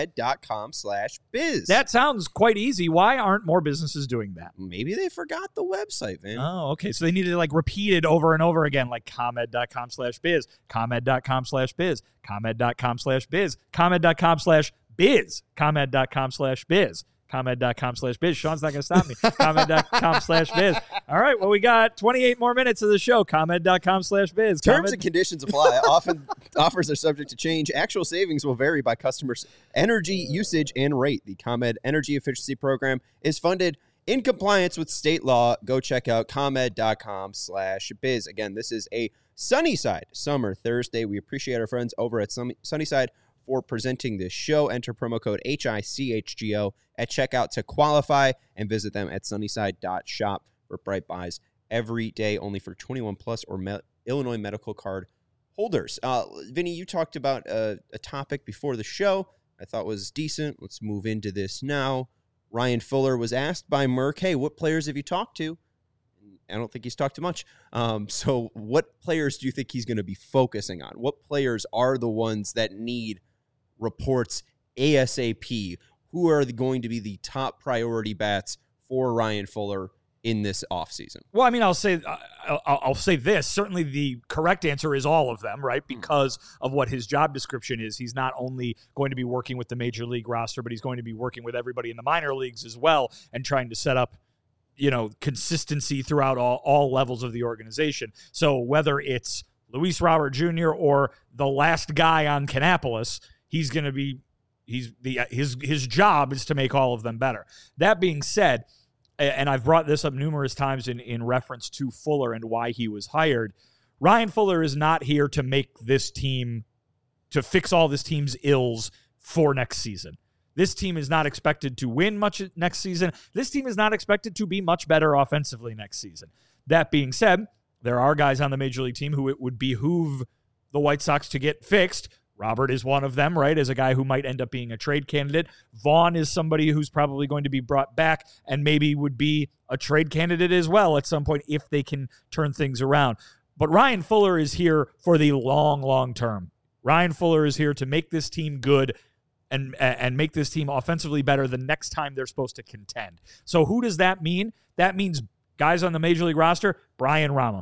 ComEd.com/biz. That sounds quite easy. Why aren't more businesses doing that? Maybe they forgot the website, man. Oh, okay. So they need to repeat it over and over again, like ComEd.com/biz, ComEd.com/biz, ComEd.com/biz, ComEd.com/biz, ComEd.com/biz. ComEd.com/biz. Sean's not going to stop me. ComEd.com/biz. All right. Well, we got 28 more minutes of the show. ComEd.com/biz. Terms and conditions apply. Often offers are subject to change. Actual savings will vary by customers' energy usage and rate. The ComEd Energy Efficiency Program is funded in compliance with state law. Go check out ComEd.com/biz. Again, this is a Sunnyside Summer Thursday. We appreciate our friends over at Sunnyside for presenting this show. Enter promo code HICHGO at checkout to qualify and visit them at sunnyside.shop for bright buys every day, only for 21 plus or Illinois medical card holders. Vinny, you talked about a topic before the show I thought was decent. Let's move into this now. Ryan Fuller was asked by Merck, hey, what players have you talked to? I don't think he's talked to much. So what players do you think he's going to be focusing on? What players are the ones that need reports ASAP? Who are going to be the top priority bats for Ryan Fuller in this offseason? Well, I mean, I'll say this. Certainly the correct answer is all of them, right? Because of what his job description is. He's not only going to be working with the major league roster, but he's going to be working with everybody in the minor leagues as well and trying to set up, consistency throughout all levels of the organization. So whether it's Luis Robert Jr. or the last guy on Kannapolis, he's going to be his job is to make all of them better. That being said, and I've brought this up numerous times in reference to Fuller and why he was hired, Ryan Fuller is not here to make this team, to fix all this team's ills for next season. This team is not expected to win much next season. This team is not expected to be much better offensively next season. That being said, there are guys on the major league team who it would behoove the White Sox to get fixed. Robert is one of them, right, as a guy who might end up being a trade candidate. Vaughn is somebody who's probably going to be brought back and maybe would be a trade candidate as well at some point if they can turn things around. But Ryan Fuller is here for the long, long term. Ryan Fuller is here to make this team good and make this team offensively better the next time they're supposed to contend. So who does that mean? That means guys on the major league roster, Brian Ramos,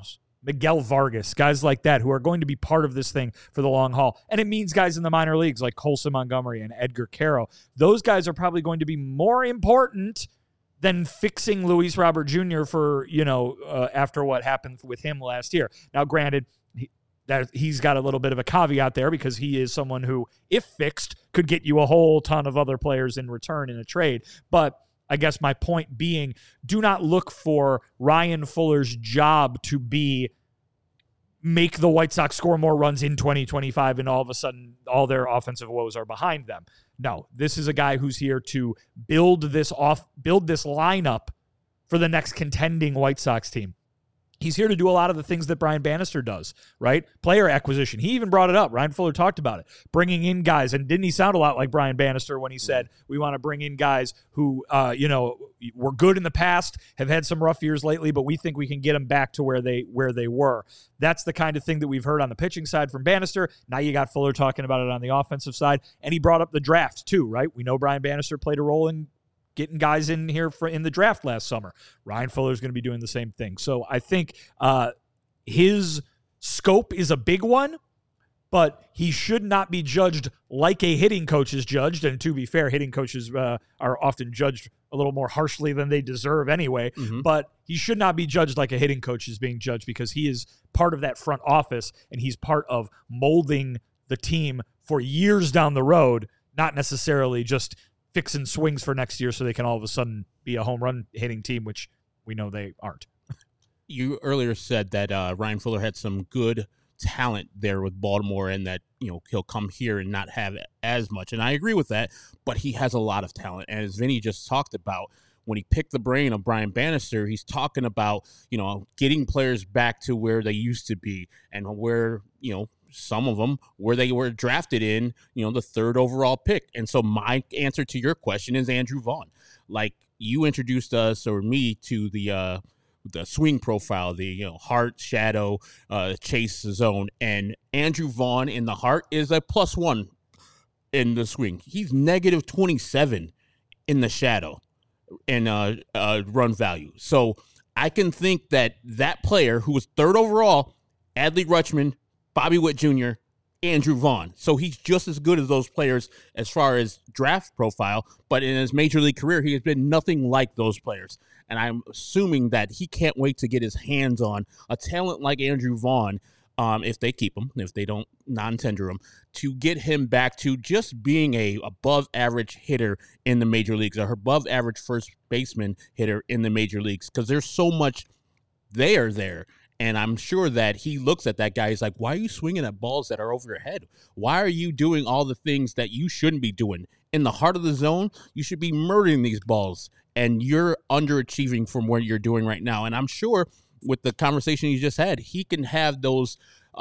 Miguel Vargas, guys like that who are going to be part of this thing for the long haul. And it means guys in the minor leagues like Colson Montgomery and Edgar Caro. Those guys are probably going to be more important than fixing Luis Robert Jr. for, after what happened with him last year. Now, granted, he's got a little bit of a caveat there because he is someone who, if fixed, could get you a whole ton of other players in return in a trade. But I guess my point being, do not look for Ryan Fuller's job to be make the White Sox score more runs in 2025 and all of a sudden all their offensive woes are behind them. No, this is a guy who's here to build this lineup for the next contending White Sox team. He's here to do a lot of the things that Brian Bannister does, right? Player acquisition. He even brought it up. Ryan Fuller talked about it. Bringing in guys. And didn't he sound a lot like Brian Bannister when he said, we want to bring in guys who, were good in the past, have had some rough years lately, but we think we can get them back to where they were. That's the kind of thing that we've heard on the pitching side from Bannister. Now you got Fuller talking about it on the offensive side. And he brought up the draft too, right? We know Brian Bannister played a role in getting guys in here in the draft last summer. Ryan Fuller is going to be doing the same thing. So I think his scope is a big one, but he should not be judged like a hitting coach is judged. And to be fair, hitting coaches are often judged a little more harshly than they deserve anyway. Mm-hmm. But he should not be judged like a hitting coach is being judged because he is part of that front office and he's part of molding the team for years down the road, not necessarily just fixing swings for next year so they can all of a sudden be a home run hitting team, which we know they aren't. You earlier said that Ryan Fuller had some good talent there with Baltimore and that, he'll come here and not have as much. And I agree with that, but he has a lot of talent. And as Vinny just talked about, when he picked the brain of Brian Bannister, he's talking about, getting players back to where they used to be and where, some of them where they were drafted in, the third overall pick. And so my answer to your question is Andrew Vaughn. Like you introduced us or me to the swing profile, the heart, shadow, chase zone, and Andrew Vaughn in the heart is a +1 in the swing. He's -27 in the shadow and run value. So I can think that player who was third overall, Adley Rutschman, Bobby Witt Jr., Andrew Vaughn. So he's just as good as those players as far as draft profile, but in his major league career, he has been nothing like those players. And I'm assuming that he can't wait to get his hands on a talent like Andrew Vaughn, if they keep him, if they don't non-tender him, to get him back to just being a above-average hitter in the major leagues, or above-average first baseman hitter in the major leagues, because there's so much there. And I'm sure that he looks at that guy. He's like, why are you swinging at balls that are over your head? Why are you doing all the things that you shouldn't be doing? In the heart of the zone, you should be murdering these balls. And you're underachieving from what you're doing right now. And I'm sure with the conversation you just had, he can have those,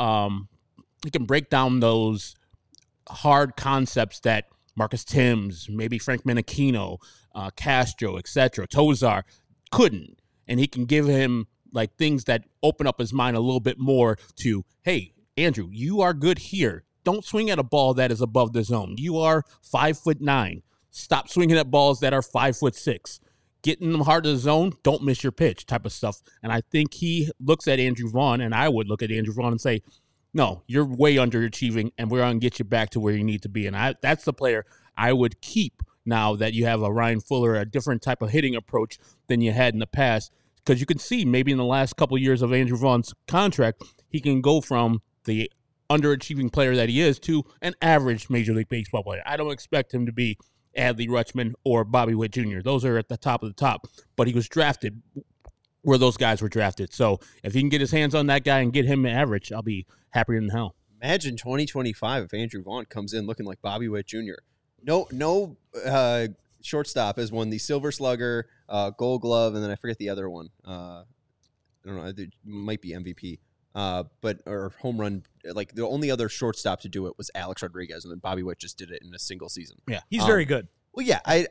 he can break down those hard concepts that Marcus Thames, maybe Frank Menachino, Castro, etc., Tozar couldn't. And he can give him like things that open up his mind a little bit more to, hey, Andrew, you are good here. Don't swing at a ball that is above the zone. You are 5'9". Stop swinging at balls that are 5'6". Get in the heart of the zone. Don't miss your pitch type of stuff. And I think he looks at Andrew Vaughn, and I would look at Andrew Vaughn and say, no, you're way underachieving, and we're going to get you back to where you need to be. And that's the player I would keep now that you have a Ryan Fuller, a different type of hitting approach than you had in the past. Because you can see maybe in the last couple of years of Andrew Vaughn's contract, he can go from the underachieving player that he is to an average Major League Baseball player. I don't expect him to be Adley Rutschman or Bobby Witt Jr. Those are at the top of the top. But he was drafted where those guys were drafted. So if he can get his hands on that guy and get him average, I'll be happier than hell. Imagine 2025 if Andrew Vaughn comes in looking like Bobby Witt Jr. No shortstop has won the Silver Slugger, Gold Glove, and then I forget the other one. I don't know. It might be MVP. Or home run. Like the only other shortstop to do it was Alex Rodriguez, and then Bobby Witt just did it in a single season. Yeah, he's very good. Well, yeah, I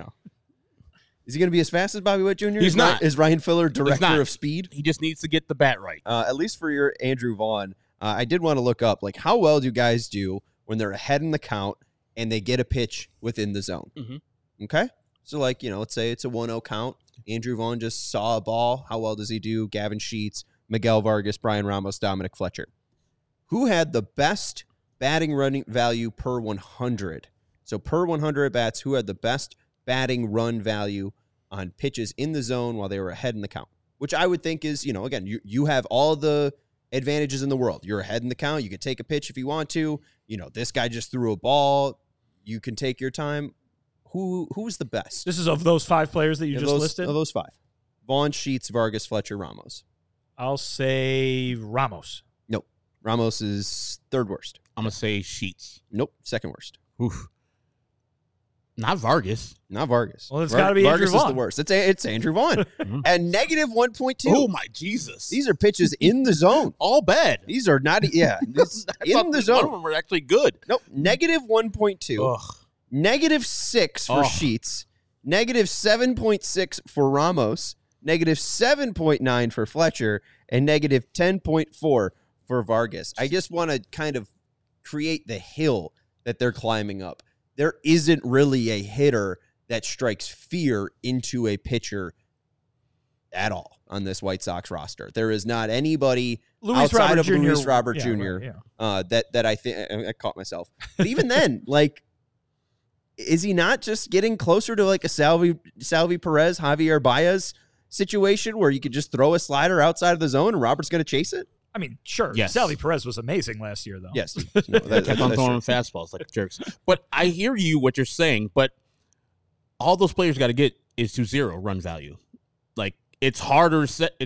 is he going to be as fast as Bobby Witt Jr.? He's not. Is Ryan Fuller director of speed? He just needs to get the bat right. At least for your Andrew Vaughn, I did want to look up like how well do guys do when they're ahead in the count and they get a pitch within the zone. Mm-hmm. Okay, so like let's say it's a 1-0 count. Andrew Vaughn just saw a ball. How well does he do? Gavin Sheets, Miguel Vargas, Brian Ramos, Dominic Fletcher. Who had the best batting running value per 100? So per 100 at bats, who had the best batting run value on pitches in the zone while they were ahead in the count? Which I would think is, again, you have all the advantages in the world. You're ahead in the count. You can take a pitch if you want to. This guy just threw a ball. You can take your time. Who's the best? This is of those 5 players that you just listed? Of those 5. Vaughn, Sheets, Vargas, Fletcher, Ramos. I'll say Ramos. Nope. Ramos is 3rd worst. I'm going to say Sheets. Nope. 2nd worst. Oof. Not Vargas. Not Vargas. Well, it's got to be Vargas Andrew Vaughn. Is the worst. It's Andrew Vaughn. And negative 1.2. Oh, my Jesus. These are pitches in the zone. All bad. These are not, in the zone. One of them are actually good. Nope. Negative 1.2. Negative 6 for Sheets. Negative 7.6 for Ramos. Negative 7.9 for Fletcher. And negative 10.4 for Vargas. I just want to kind of create the hill that they're climbing up. There isn't really a hitter that strikes fear into a pitcher at all on this White Sox roster. There is not anybody outside of Luis Robert Jr. That I think I caught myself. But even then, is he not just getting closer to like a Salvi Perez, Javier Baez situation where you could just throw a slider outside of the zone and Robert's going to chase it? I mean, sure. Yes. Salvi Perez was amazing last year, though. Yes. They kept on throwing fastballs like jerks. But I hear what you're saying, but all those players got to get is to 0 run value. It's harder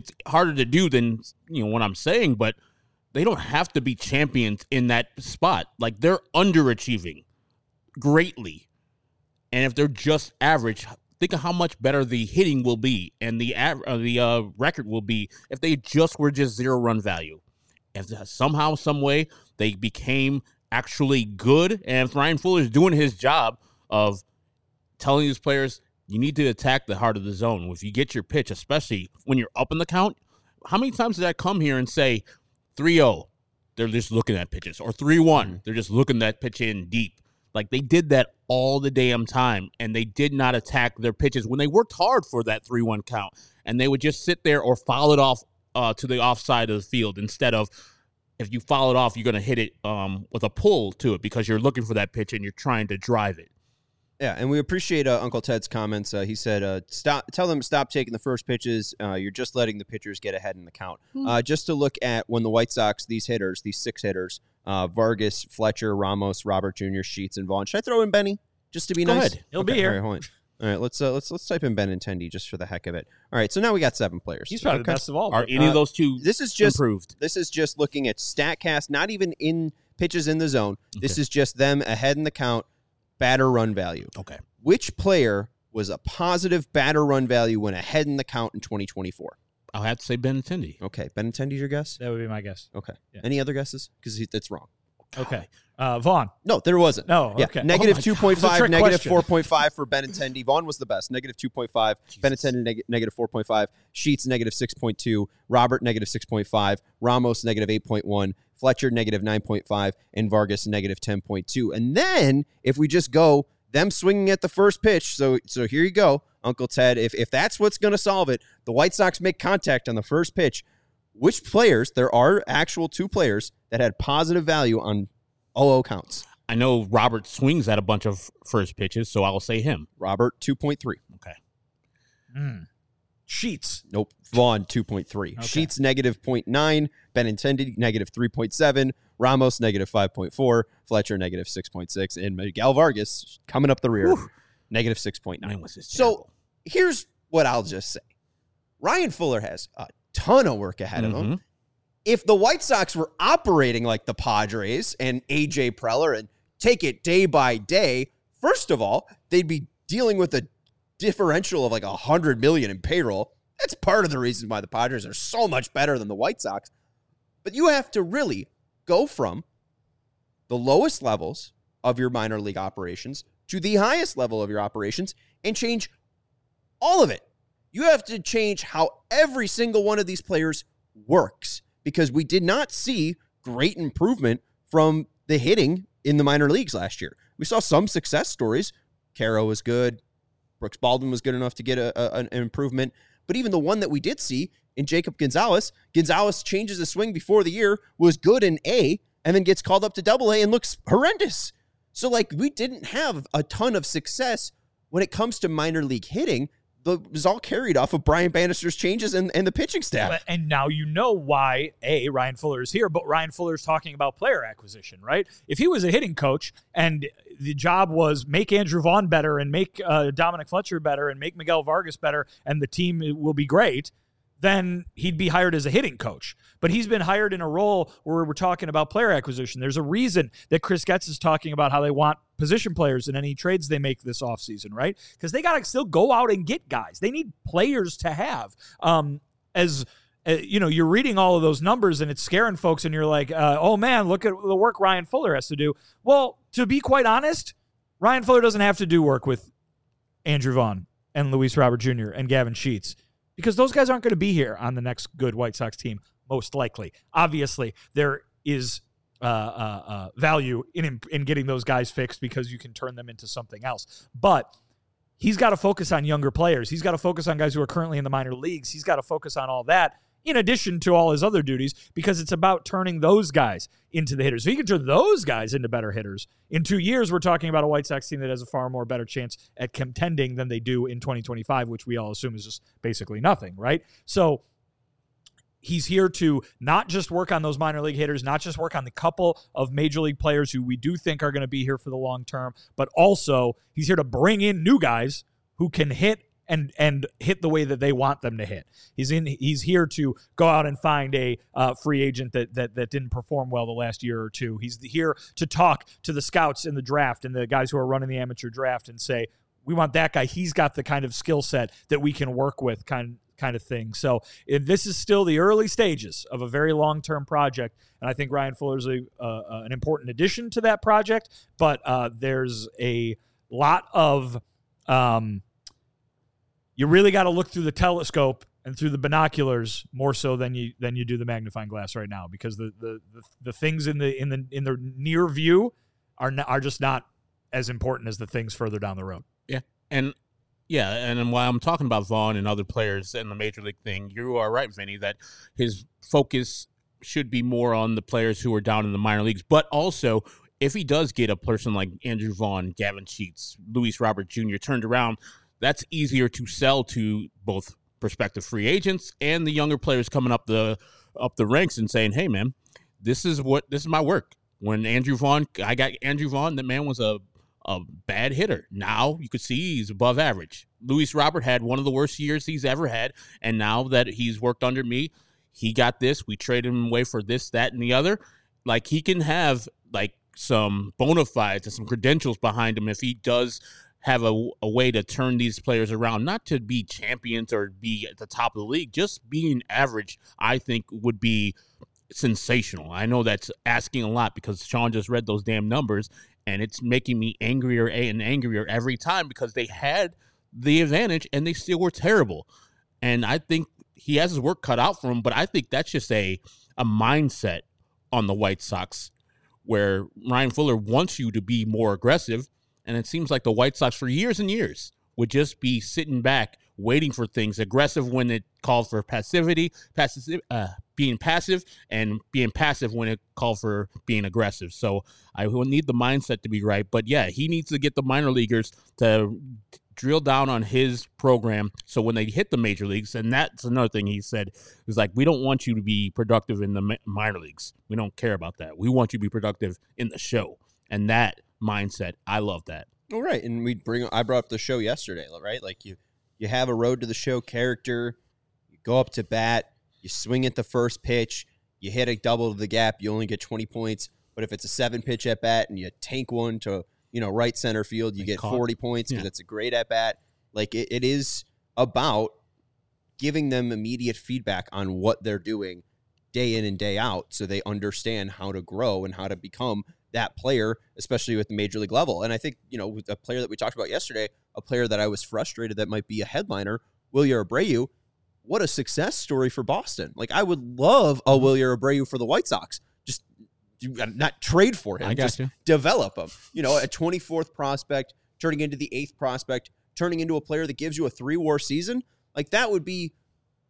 to do than what I'm saying, but they don't have to be champions in that spot. They're underachieving greatly. And if they're just average, think of how much better the hitting will be and the record will be if they were just 0 run value. If somehow, some way, they became actually good, and if Ryan Fuller is doing his job of telling these players, you need to attack the heart of the zone. If you get your pitch, especially when you're up in the count, how many times did I come here and say 3-0, they're just looking at pitches, or 3-1, they're just looking that pitch in deep. They did that all the damn time, and they did not attack their pitches when they worked hard for that 3-1 count, and they would just sit there or foul it off to the offside of the field instead of, if you foul it off, you're going to hit it with a pull to it because you're looking for that pitch and you're trying to drive it. Yeah, and we appreciate Uncle Ted's comments. He said, tell them to stop taking the first pitches. You're just letting the pitchers get ahead in the count. Just to look at when the White Sox, these 6 hitters, Vargas, Fletcher, Ramos, Robert Jr., Sheets, and Vaughn. Should I throw in Benny just to be nice? Ahead. He'll be here. All right, hold on. All right, let's type in Benintendi just for the heck of it. All right, so now we got 7 players. He's probably the best of all. Are any of those 2 improved? This is just looking at StatCast, not even in pitches in the zone. This is just them ahead in the count, batter run value. Okay. Which player was a positive batter run value when ahead in the count in 2024? I'll have to say Benintendi. Okay, Benintendi's your guess? That would be my guess. Okay. Yeah. Any other guesses? Because that's wrong. Okay. Vaughn. No, there wasn't. No, yeah. okay. Negative 2.5, negative question. 4.5 for Benintendi. Vaughn was the best. Negative 2.5. Benintendi, negative 4.5. Sheets, negative 6.2. Robert, negative 6.5. Ramos, negative 8.1. Fletcher, negative 9.5. And Vargas, negative 10.2. And then, if we just go them swinging at the first pitch, so here you go, Uncle Ted. If that's what's going to solve it, the White Sox make contact on the first pitch. Which players, there are actual 2 players that had positive value on 0-0 counts. I know Robert swings at a bunch of first pitches, so I'll say him. Robert, 2.3. Okay. Sheets. Nope. Vaughn, 2.3. Okay. Sheets, negative 0.9. Benintendi, negative 3.7. Ramos, negative 5.4. Fletcher, negative 6.6. And Miguel Vargas, coming up the rear, negative 6.9. So here's what I'll just say. Ryan Fuller has a ton of work ahead of him. If the White Sox were operating like the Padres and A.J. Preller and take it day by day, first of all, they'd be dealing with a differential of like $100 million in payroll. That's part of the reason why the Padres are so much better than the White Sox. But you have to really go from the lowest levels of your minor league operations to the highest level of your operations and change all of it. You have to change how every single one of these players works, because we did not see great improvement from the hitting in the minor leagues last year. We saw some success stories. Caro was good. Brooks Baldwin was good enough to get an improvement. But even the one that we did see in Jacob Gonzalez. Gonzalez changes his swing before the year, was good in A, and then gets called up to Double-A and looks horrendous. So, like, we didn't have a ton of success when it comes to minor league hitting. It was all carried off of Brian Bannister's changes and the pitching staff. And now you know why, Ryan Fuller is here, but Ryan Fuller is talking about player acquisition, right? If he was a hitting coach and the job was make Andrew Vaughn better and make Dominic Fletcher better and make Miguel Vargas better and the team will be great, then he'd be hired as a hitting coach. But he's been hired in a role where we're talking about player acquisition. There's a reason that Chris Getz is talking about how they want position players in any trades they make this offseason, right? Because they got to still go out and get guys. They need players to have. You're reading all of those numbers and it's scaring folks and you're like, oh man, look at the work Ryan Fuller has to do. Well, to be quite honest, Ryan Fuller doesn't have to do work with Andrew Vaughn and Luis Robert Jr. and Gavin Sheets, because those guys aren't going to be here on the next good White Sox team, most likely. Obviously, there is value in getting those guys fixed because you can turn them into something else. But he's got to focus on younger players. He's got to focus on guys who are currently in the minor leagues. He's got to focus on all that in addition to all his other duties, because it's about turning those guys into the hitters. So he can turn those guys into better hitters. In 2 years, we're talking about a White Sox team that has a far more better chance at contending than they do in 2025, which we all assume is just basically nothing, right? So he's here to not just work on those minor league hitters, not just work on the couple of major league players who we do think are going to be here for the long term, but also he's here to bring in new guys who can hit and hit the way that they want them to hit. He's here to go out and find a free agent that didn't perform well the last year or two. He's here to talk to the scouts in the draft and the guys who are running the amateur draft and say, we want that guy. He's got the kind of skill set that we can work with, kind of thing. So this is still the early stages of a very long-term project, and I think Ryan Fuller's an important addition to that project, but there's a lot of you really got to look through the telescope and through the binoculars more so than you do the magnifying glass right now, because the things in the near view are just not as important as the things further down the road. And while I'm talking about Vaughn and other players in the major league thing, you are right, Vinny, that his focus should be more on the players who are down in the minor leagues, but also if he does get a person like Andrew Vaughn, Gavin Sheets, Luis Robert Jr. turned around, that's easier to sell to both prospective free agents and the younger players coming up the ranks and saying, hey man, this is my work. When I got Andrew Vaughn, that man was a bad hitter. Now you could see he's above average. Luis Robert had one of the worst years he's ever had, and now that he's worked under me, he got this. We traded him away for this, that, and the other. Like, he can have like some bona fides and some credentials behind him if he does have a way to turn these players around, not to be champions or be at the top of the league. Just being average, I think, would be sensational. I know that's asking a lot because Sean just read those damn numbers, and it's making me angrier and angrier every time because they had the advantage and they still were terrible. And I think he has his work cut out for him, but I think that's just a mindset on the White Sox where Ryan Fuller wants you to be more aggressive. And it seems like the White Sox for years and years would just be sitting back, waiting for things, aggressive when it called for being passive, and being passive when it called for being aggressive. So I will need the mindset to be right. But yeah, he needs to get the minor leaguers to drill down on his program so when they hit the major leagues, and that's another thing he said, is like, we don't want you to be productive in the minor leagues. We don't care about that. We want you to be productive in the show. And that mindset, I love that. All right, and I brought up the show yesterday, right? Like you have a road to the show character, you go up to bat, you swing at the first pitch, you hit a double to the gap, you only get 20 points. But if it's a 7-pitch at bat and you tank one to right center field, you get 40 points because it's a great at bat. Like it is about giving them immediate feedback on what they're doing day in and day out, so they understand how to grow and how to become that player, especially with the major league level. And I think, with a player that we talked about yesterday, a player that I was frustrated that might be a headliner, Wilyer Abreu, what a success story for Boston. Like, I would love a Wilyer Abreu for the White Sox. Just not trade for him. Just develop him. A 24th prospect, turning into the 8th prospect, turning into a player that gives you a 3-WAR season. Like, that would be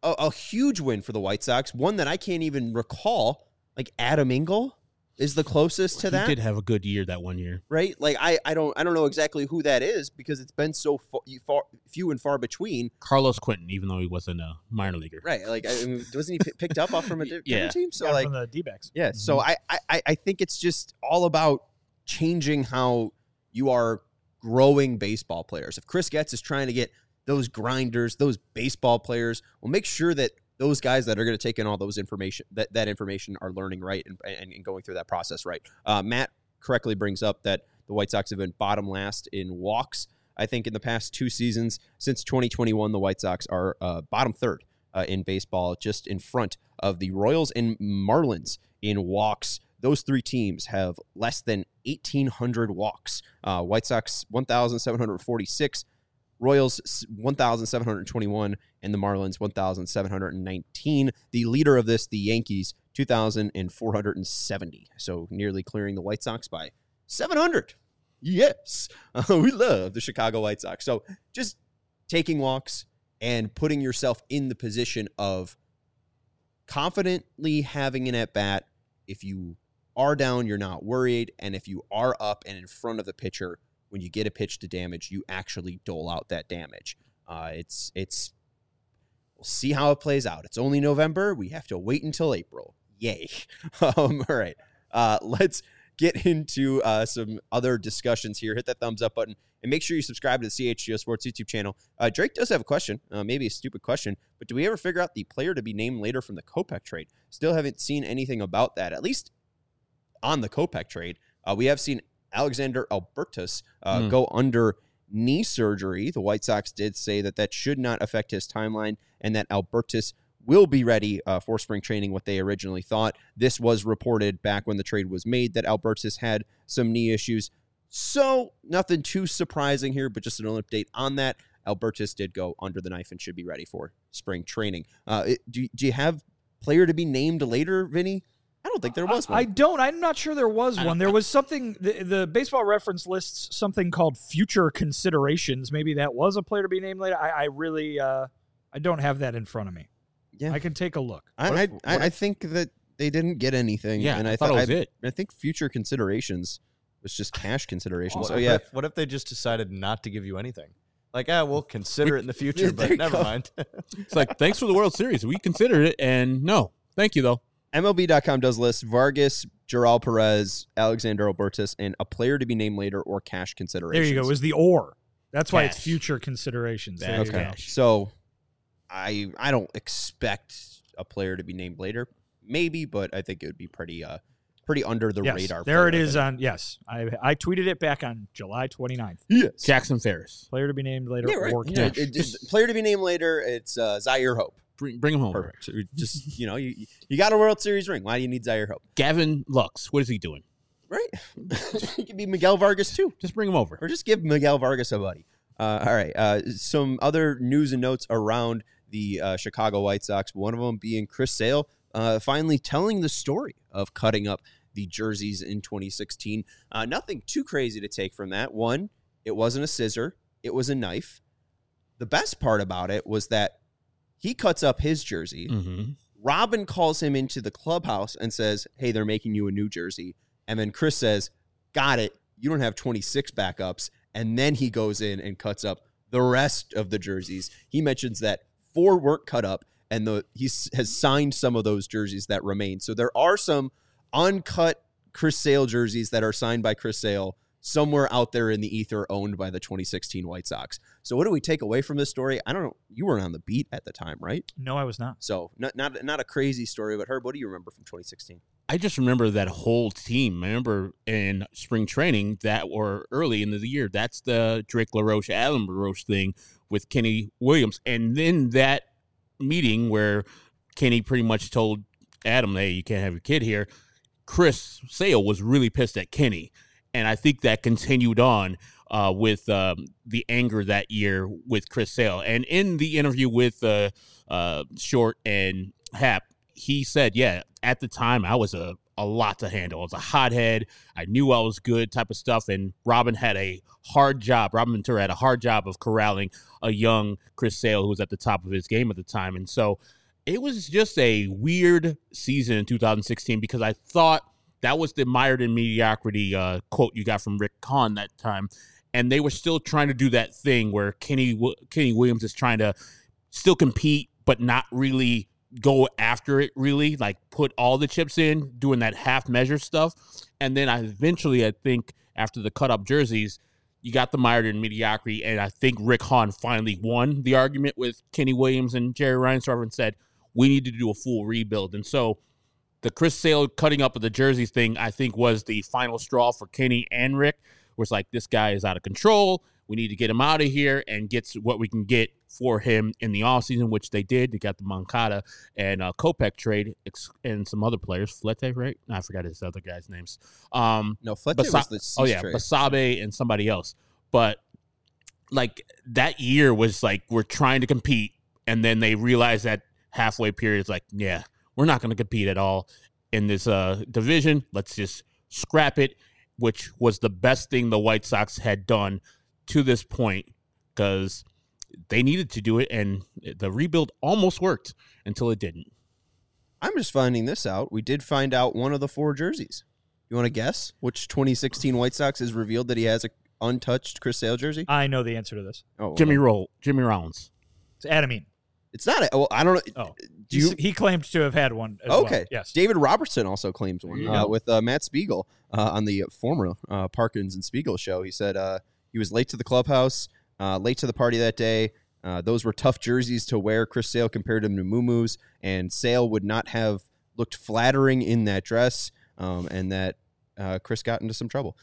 a huge win for the White Sox, one that I can't even recall. Like Adam Engel is the closest to that. He did have a good year that one year, right? Like I don't know exactly who that is because it's been so few and far between. Carlos Quentin, even though he wasn't a minor leaguer, right? Like wasn't he picked up off from a different team? So like from the D-backs. Yeah. Mm-hmm. So I think it's just all about changing how you are growing baseball players. If Chris Getz is trying to get those grinders, those baseball players, well, make sure that those guys that are going to take in all those information, that information are learning right and going through that process right. Matt correctly brings up that the White Sox have been bottom last in walks. I think in the past 2 seasons, since 2021, the White Sox are bottom third in baseball, just in front of the Royals and Marlins in walks. Those 3 teams have less than 1,800 walks. White Sox 1,746, Royals 1,721, and the Marlins 1,719. The leader of this, the Yankees, 2,470. So nearly clearing the White Sox by 700. Yes, we love the Chicago White Sox. So just taking walks and putting yourself in the position of confidently having an at-bat. If you are down, you're not worried. And if you are up and in front of the pitcher, when you get a pitch to damage, you actually dole out that damage. We'll see how it plays out. It's only November. We have to wait until April. Yay. All right. Let's get into some other discussions here. Hit that thumbs up button and make sure you subscribe to the CHGO Sports YouTube channel. Drake does have a question, maybe a stupid question, but do we ever figure out the player to be named later from the Kopech trade? Still haven't seen anything about that, at least on the Kopech trade. We have seen Alexander Albertus go under knee surgery. The White Sox did say that should not affect his timeline and that Albertus will be ready for spring training, what they originally thought. This was reported back when the trade was made that Albertus had some knee issues. So nothing too surprising here, but just an update on that. Albertus did go under the knife and should be ready for spring training. Do you have player to be named later, Vinny? I don't think there was one. I don't. I'm not sure there was one. There was something, the Baseball Reference lists something called future considerations. Maybe that was a player to be named later. I really, I don't have that in front of me. Yeah, I can take a look. I think that they didn't get anything. Yeah, and I thought it was it. I think future considerations was just cash considerations. Oh, yeah. What if they just decided not to give you anything? Like, we'll consider it in the future, but never mind. It's like, thanks for the World Series. We considered it, and no, thank you, though. MLB.com does list Vargas, Joral Perez, Alexander Albertus, and a player to be named later or cash considerations. There you go. It was the or. That's why it's future considerations. Okay. So I don't expect a player to be named later. Maybe, but I think it would be pretty under the radar. There it is on, yes. I tweeted it back on July 29th. Yes. Jackson Ferris. Player to be named later or cash. cash. Player to be named later, it's Zaire Hope. Bring him home. Perfect. Just, you got a World Series ring. Why do you need Zaire Hope? Gavin Lux. What is he doing? Right. He could be Miguel Vargas, too. Just bring him over. Or just give Miguel Vargas a buddy. All right. Some other news and notes around the Chicago White Sox, one of them being Chris Sale finally telling the story of cutting up the jerseys in 2016. Nothing too crazy to take from that. One, it wasn't a scissor. It was a knife. The best part about it was that he cuts up his jersey. Mm-hmm. Robin calls him into the clubhouse and says, hey, they're making you a new jersey. And then Chris says, got it. You don't have 26 backups. And then he goes in and cuts up the rest of the jerseys. He mentions that 4 weren't cut up, and he has signed some of those jerseys that remain. So there are some uncut Chris Sale jerseys that are signed by Chris Sale somewhere out there in the ether owned by the 2016 White Sox. So what do we take away from this story? I don't know. You weren't on the beat at the time, right? No, I was not. So not a crazy story, but Herb, what do you remember from 2016? I just remember that whole team. I remember in spring training or early in the year, that's the Drake LaRoche, Adam LaRoche thing with Kenny Williams. And then that meeting where Kenny pretty much told Adam, hey, you can't have your kid here. Chris Sale was really pissed at Kenny. And I think that continued on with the anger that year with Chris Sale. And in the interview with Short and Hap, he said, yeah, at the time I was a a lot to handle. I was a hothead. I knew I was good type of stuff. And Robin had a hard job. Robin Ventura had a hard job of corralling a young Chris Sale who was at the top of his game at the time. And so it was just a weird season in 2016 because I thought that was the mired in mediocrity quote you got from Rick Hahn that time. And they were still trying to do that thing where Kenny Williams is trying to still compete, but not really go after it, really, like put all the chips in, doing that half measure stuff. And then I think, after the cut-up jerseys, you got the mired in mediocrity, and I think Rick Hahn finally won the argument with Kenny Williams and Jerry Reinsdorf and said, we need to do a full rebuild. And so the Chris Sale cutting up of the jerseys thing, I think, was the final straw for Kenny and Rick, where it's like, this guy is out of control. We need to get him out of here and get what we can get for him in the offseason, which they did. They got the Moncada and Kopech trade and some other players. Flete, right? I forgot his other guys' names. No, Flete was the Cease trade. Basabe and somebody else. But, like, that year was like, we're trying to compete, and then they realized that halfway period is like, yeah, we're not going to compete at all in this division. Let's just scrap it, which was the best thing the White Sox had done to this point because they needed to do it, and the rebuild almost worked until it didn't. I'm just finding this out. We did find out one of the 4 jerseys. You want to guess which 2016 White Sox is revealed that he has a untouched Chris Sale jersey? I know the answer to this. Oh, Jimmy Rollins. It's Adamine. It's not. Well, I don't know. Oh, he claimed to have had one as okay. well. Yes. David Robertson also claims one with Matt Spiegel on the former Parkins and Spiegel show. He said he was late to the clubhouse, late to the party that day. Those were tough jerseys to wear. Chris Sale compared him to Moo-Moo's, and Sale would not have looked flattering in that dress, and that Chris got into some trouble.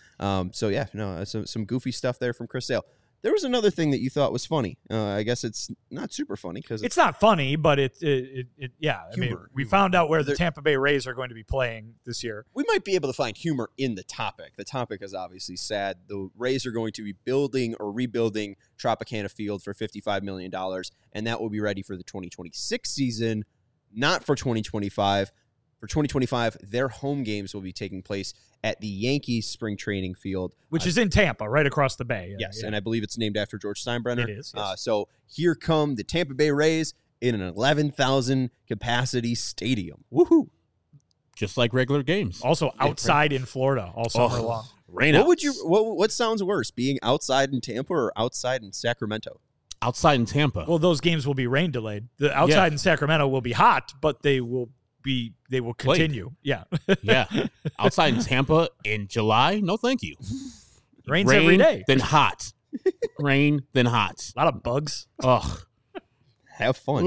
Some goofy stuff there from Chris Sale. There was another thing that you thought was funny. I guess it's not super funny because it's not funny, but yeah. I mean, we found out where the Tampa Bay Rays are going to be playing this year. We might be able to find humor in the topic. The topic is obviously sad. The Rays are going to be building or rebuilding Tropicana Field for $55 million, and that will be ready for the 2026 season, not for 2025. For 2025, their home games will be taking place at the Yankees spring training field. Which is in Tampa, right across the bay. Yes, and I believe it's named after George Steinbrenner. It is, yes. So here come the Tampa Bay Rays in an 11,000 capacity stadium. Woohoo! Just like regular games. Also outside in Florida all summer long. What sounds worse, being outside in Tampa or outside in Sacramento? Outside in Tampa. Well, those games will be rain delayed. The outside in Sacramento will be hot, but they will continue. Yeah. Yeah. Outside in Tampa in July? No, thank you. Rains every day. Then hot. Rain, then hot. A lot of bugs. Ugh. Have fun.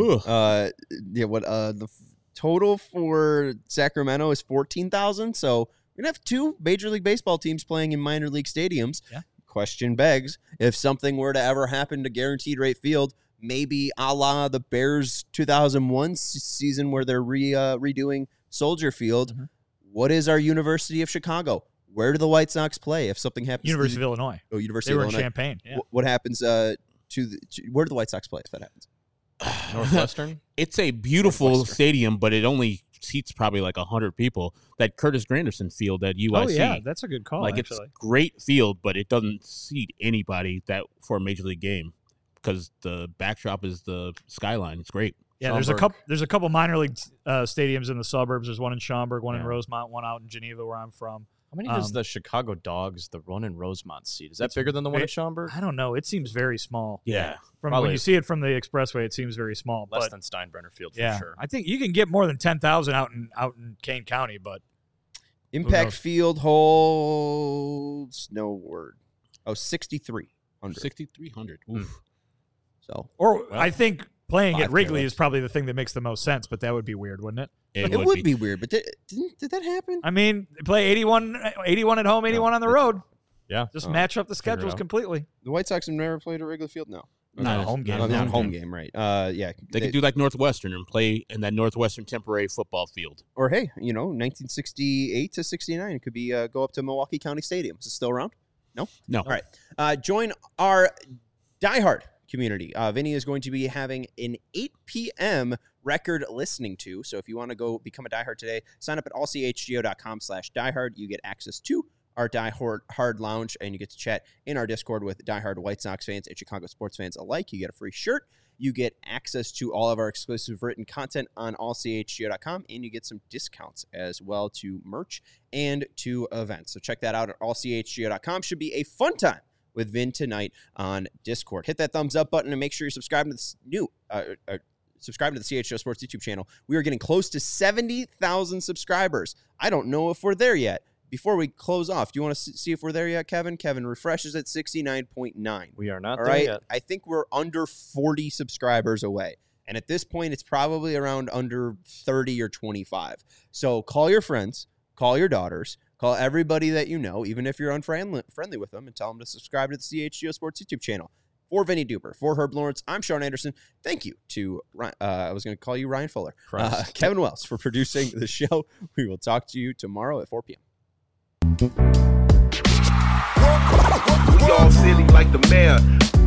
The total for Sacramento is 14,000. So we're going to have 2 Major League Baseball teams playing in minor league stadiums. Yeah. Question begs, if something were to ever happen to Guaranteed Rate Field, maybe a la the Bears 2001 season where they're redoing Soldier Field. Mm-hmm. What is our University of Chicago? Where do the White Sox play if something happens? University of Illinois. Oh, University of Illinois. They were in Champaign. Yeah. What happens where do the White Sox play if that happens? Northwestern? It's a beautiful stadium, but it only seats probably like 100 people. That Curtis Granderson Field at UIC. Oh, yeah, that's a good call, It's a great field, but it doesn't seat anybody that for a Major League game. Because the backdrop is the skyline. It's great. Yeah, there's a couple minor league stadiums in the suburbs. There's one in Schaumburg, one in Rosemont, one out in Geneva where I'm from. How many does the Chicago Dogs, the one in Rosemont, seat? Is that bigger than the one in Schaumburg? I don't know. It seems very small. Yeah. When you see it from the expressway, it seems very small. Less than Steinbrenner Field, for sure. I think you can get more than 10,000 out in Kane County, but Impact Field holds no word. 6,300. 6,300. Oof. I think playing at Wrigley is probably the thing that makes the most sense, but that would be weird, wouldn't it? It would be weird, but did that happen? I mean, they play 81 at home, 81 on the road. Yeah. Just match up the schedules completely. The White Sox have never played at Wrigley Field? No. Not home game. Not home game, right. They could do like Northwestern and play in that Northwestern temporary football field. Or, hey, 1968 to 69, it could be go up to Milwaukee County Stadium. Is it still around? No? No. All right. Join our diehard community. Vinny is going to be having an 8 p.m. record listening to. So if you want to go become a diehard today, sign up at allchgo.com/diehard. You get access to our diehard lounge, and you get to chat in our Discord with diehard White Sox fans and Chicago sports fans alike. You get a free shirt. You get access to all of our exclusive written content on allchgo.com, and you get some discounts as well to merch and to events. So check that out at allchgo.com. Should be a fun time with Vin tonight on Discord. Hit that thumbs up button and make sure you're subscribing to this subscribe to the CHGO Sports YouTube channel. We are getting close to 70,000 subscribers. I don't know if we're there yet. Before we close off, do you want to see if we're there yet, Kevin? Kevin refreshes at 69.9. We are not All there right? yet. I think we're under 40 subscribers away. And at this point, it's probably around under 30 or 25. So call your friends, call your daughters, call everybody that you know, even if you're unfriendly with them, and tell them to subscribe to the CHGO Sports YouTube channel. For Vinny Duper, for Herb Lawrence, I'm Sean Anderson. Thank you to, I was going to call you Ryan Fuller, Kevin Wells for producing the show. We will talk to you tomorrow at 4 p.m. We all silly like the mayor.